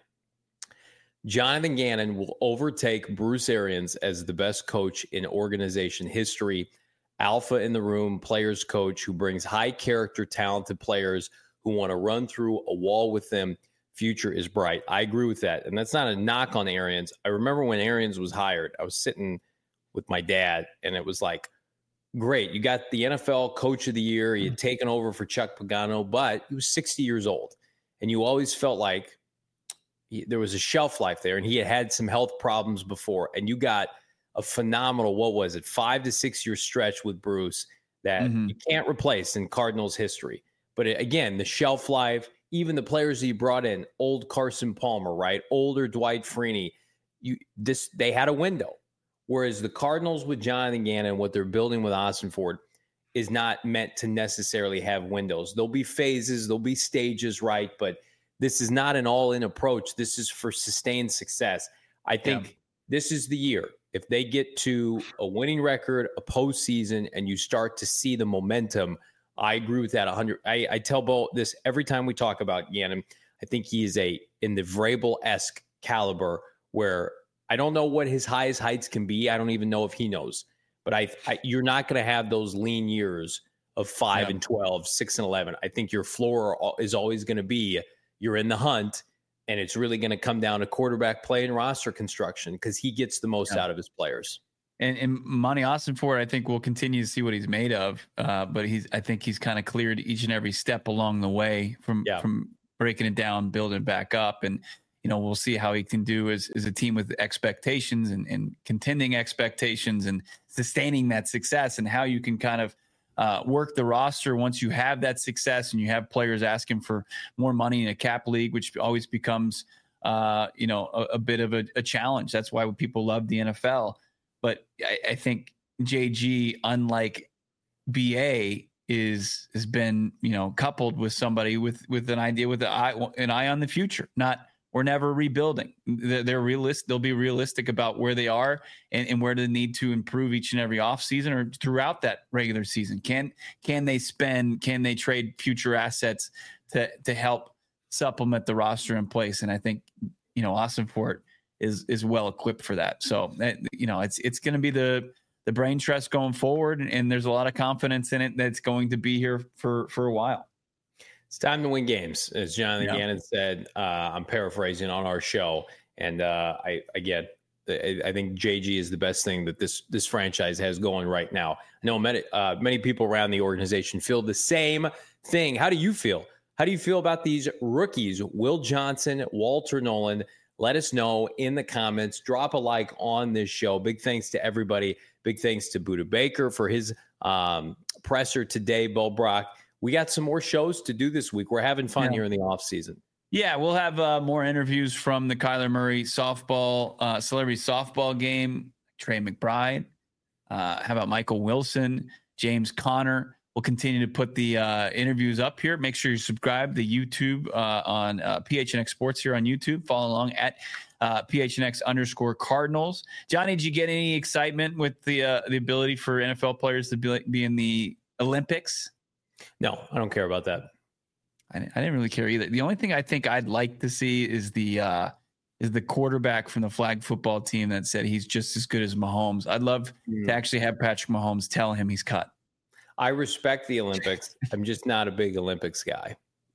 Jonathan Gannon will overtake Bruce Arians as the best coach in organization history. Alpha in the room, players coach who brings high character, talented players who want to run through a wall with them. Future is bright. I agree with that. And that's not a knock on Arians. I remember when Arians was hired, I was sitting with my dad and it was like, great. You got the N F L coach of the year. He had taken over for Chuck Pagano, but he was sixty years old. And you always felt like he, there was a shelf life there and he had had some health problems before. And you got a phenomenal, what was it, five to six year stretch with Bruce that mm-hmm. you can't replace in Cardinals history. But it, again, the shelf life, even the players that you brought in, old Carson Palmer, right? Older Dwight Freeney, you this they had a window. Whereas the Cardinals with Jonathan Gannon, what they're building with Ossenfort is not meant to necessarily have windows. There'll be phases, there'll be stages, right? But this is not an all-in approach. This is for sustained success. I think yeah. this is the year. If they get to a winning record, a postseason, and you start to see the momentum, I agree with that one hundred. I, I tell Bo this every time we talk about Gannon. I think he is a in the Vrabel-esque caliber where I don't know what his highest heights can be. I don't even know if he knows. But I, I you're not going to have those lean years of five yeah. and twelve, six and eleven. I think your floor is always going to be you're in the hunt. And it's really going to come down to quarterback play and roster construction because he gets the most yeah. out of his players. And, and Monty Ossenfort, I think we'll continue to see what he's made of. Uh, but he's, I think he's kind of cleared each and every step along the way from yeah. from breaking it down, building it back up. And, you know, we'll see how he can do as, as a team with expectations and, and contending expectations and sustaining that success and how you can kind of Uh, work the roster once you have that success and you have players asking for more money in a cap league, which always becomes, uh, you know, a, a bit of a, a challenge. That's why people love the N F L. But I, I think J G, unlike B A, is has been, you know, coupled with somebody with with an idea with an eye, an eye on the future. Not we're never rebuilding. They're, they're realist. They'll be realistic about where they are and, and where they need to improve each and every offseason or throughout that regular season. Can can they spend? Can they trade future assets to to help supplement the roster in place? And I think, you know, Ossenfort is is well equipped for that. So that, you know, it's it's going to be the the brain trust going forward, and, and there's a lot of confidence in it that's going to be here for for a while. It's time to win games, as Jonathan yeah. Gannon said. Uh, I'm paraphrasing on our show, and uh, I again, I, I think J G is the best thing that this this franchise has going right now. I know many uh, many people around the organization feel the same thing. How do you feel? How do you feel about these rookies, Will Johnson, Walter Nolan? Let us know in the comments. Drop a like on this show. Big thanks to everybody. Big thanks to Buda Baker for his um, presser today, Bo Brock. We got some more shows to do this week. We're having fun yeah. here in the off season. Yeah, we'll have uh, more interviews from the Kyler Murray softball, uh, celebrity softball game, Trey McBride. Uh, how about Michael Wilson, James Conner? We'll continue to put the uh, interviews up here. Make sure you subscribe to YouTube uh, on uh, P H N X Sports here on YouTube. Follow along at uh, P H N X underscore Cardinals. Johnny, did you get any excitement with the uh, the ability for N F L players to be, be in the Olympics? No, I don't care about that. I, I didn't really care either. The only thing I think I'd like to see is the uh, is the quarterback from the flag football team that said he's just as good as Mahomes. I'd love mm. to actually have Patrick Mahomes tell him he's cut. I respect the Olympics. I'm just not a big Olympics guy.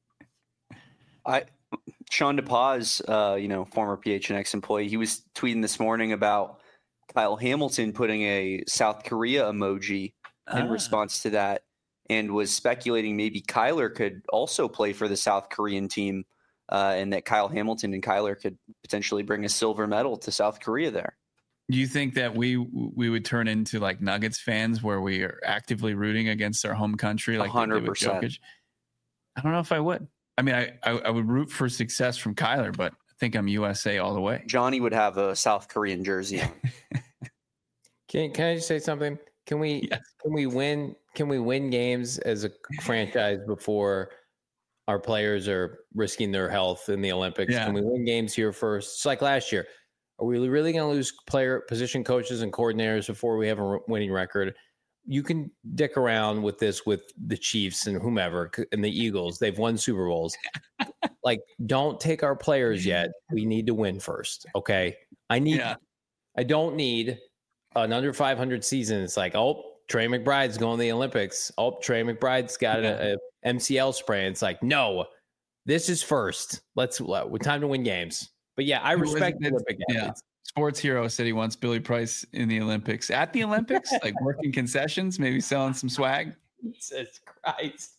I, Sean DePaz, uh, you know, former P H N X employee, he was tweeting this morning about Kyle Hamilton putting a South Korea emoji in ah. response to that, and was speculating maybe Kyler could also play for the South Korean team, uh, and that Kyle Hamilton and Kyler could potentially bring a silver medal to South Korea there. Do you think that we we would turn into like Nuggets fans where we are actively rooting against our home country like one hundred percent. Jokic? I don't know if I would. I mean, I, I I would root for success from Kyler, but I think I'm U S A all the way. Johnny would have a South Korean jersey on. Can can I just say something? Can we yes. can we win can we win games as a franchise before our players are risking their health in the Olympics? Yeah. Can we win games here first? It's like last year. Are we really going to lose player position coaches and coordinators before we have a winning record? You can dick around with this with the Chiefs and whomever and the Eagles. They've won Super Bowls. Like, don't take our players yet. We need to win first. Okay. I need, yeah. I don't need an under five hundred season. It's like, oh, Trey McBride's going to the Olympics. Oh, Trey McBride's got yeah. a, a M C L sprain. It's like, no, this is first. Let's, we're time to win games. But yeah, I respect the Olympic athletes. Yeah. Sports Hero said he wants Billy Price in the Olympics. At the Olympics, like working concessions, maybe selling some swag. Jesus Christ.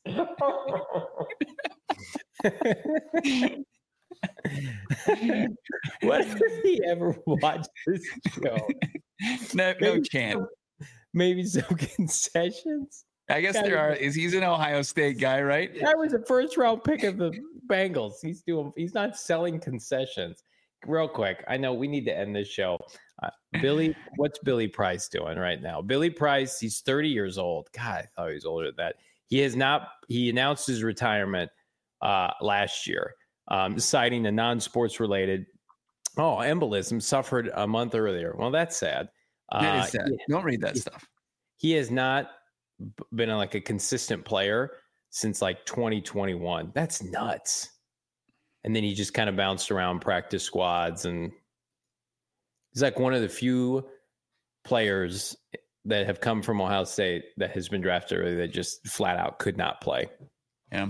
What if he ever watched this show? No, no chance. Maybe some concessions. I guess there are. Is he's an Ohio State guy, right? That was a first round pick of the Bengals. He's doing. He's not selling concessions. Real quick, I know we need to end this show. Uh, Billy, what's Billy Price doing right now? Billy Price, he's thirty years old. God, I thought he was older than that. He has not. He announced his retirement uh, last year, um, citing a non-sports related oh embolism suffered a month earlier. Well, that's sad. Uh, that is sad. He, Don't read that he, stuff. He has not been a, like a consistent player since like twenty twenty-one. That's nuts. And then he just kind of bounced around practice squads, and he's like one of the few players that have come from Ohio State that has been drafted early that just flat out could not play. Yeah.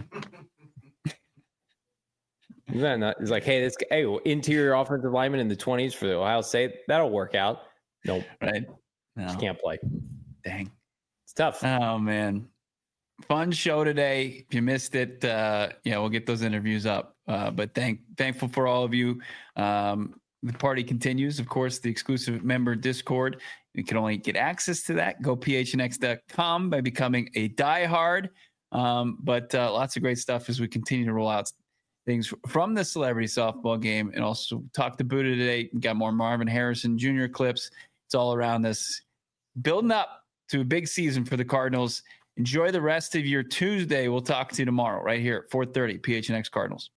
Is that not, it's like, hey, this hey, interior offensive lineman in the twenties for the Ohio State, that'll work out. Nope. Right. No. Just can't play. Dang. It's tough. Oh man. Fun show today. If you missed it, uh, yeah, we'll get those interviews up. Uh, but thank thankful for all of you. Um, the party continues. Of course, the exclusive member Discord. You can only get access to that. Go P H N X dot com by becoming a diehard. Um, but uh, lots of great stuff as we continue to roll out things from the celebrity softball game, and also talk to Buddha today. We got more Marvin Harrison Junior clips. It's all around us, building up to a big season for the Cardinals. Enjoy the rest of your Tuesday. We'll talk to you tomorrow right here at four thirty P H N X Cardinals.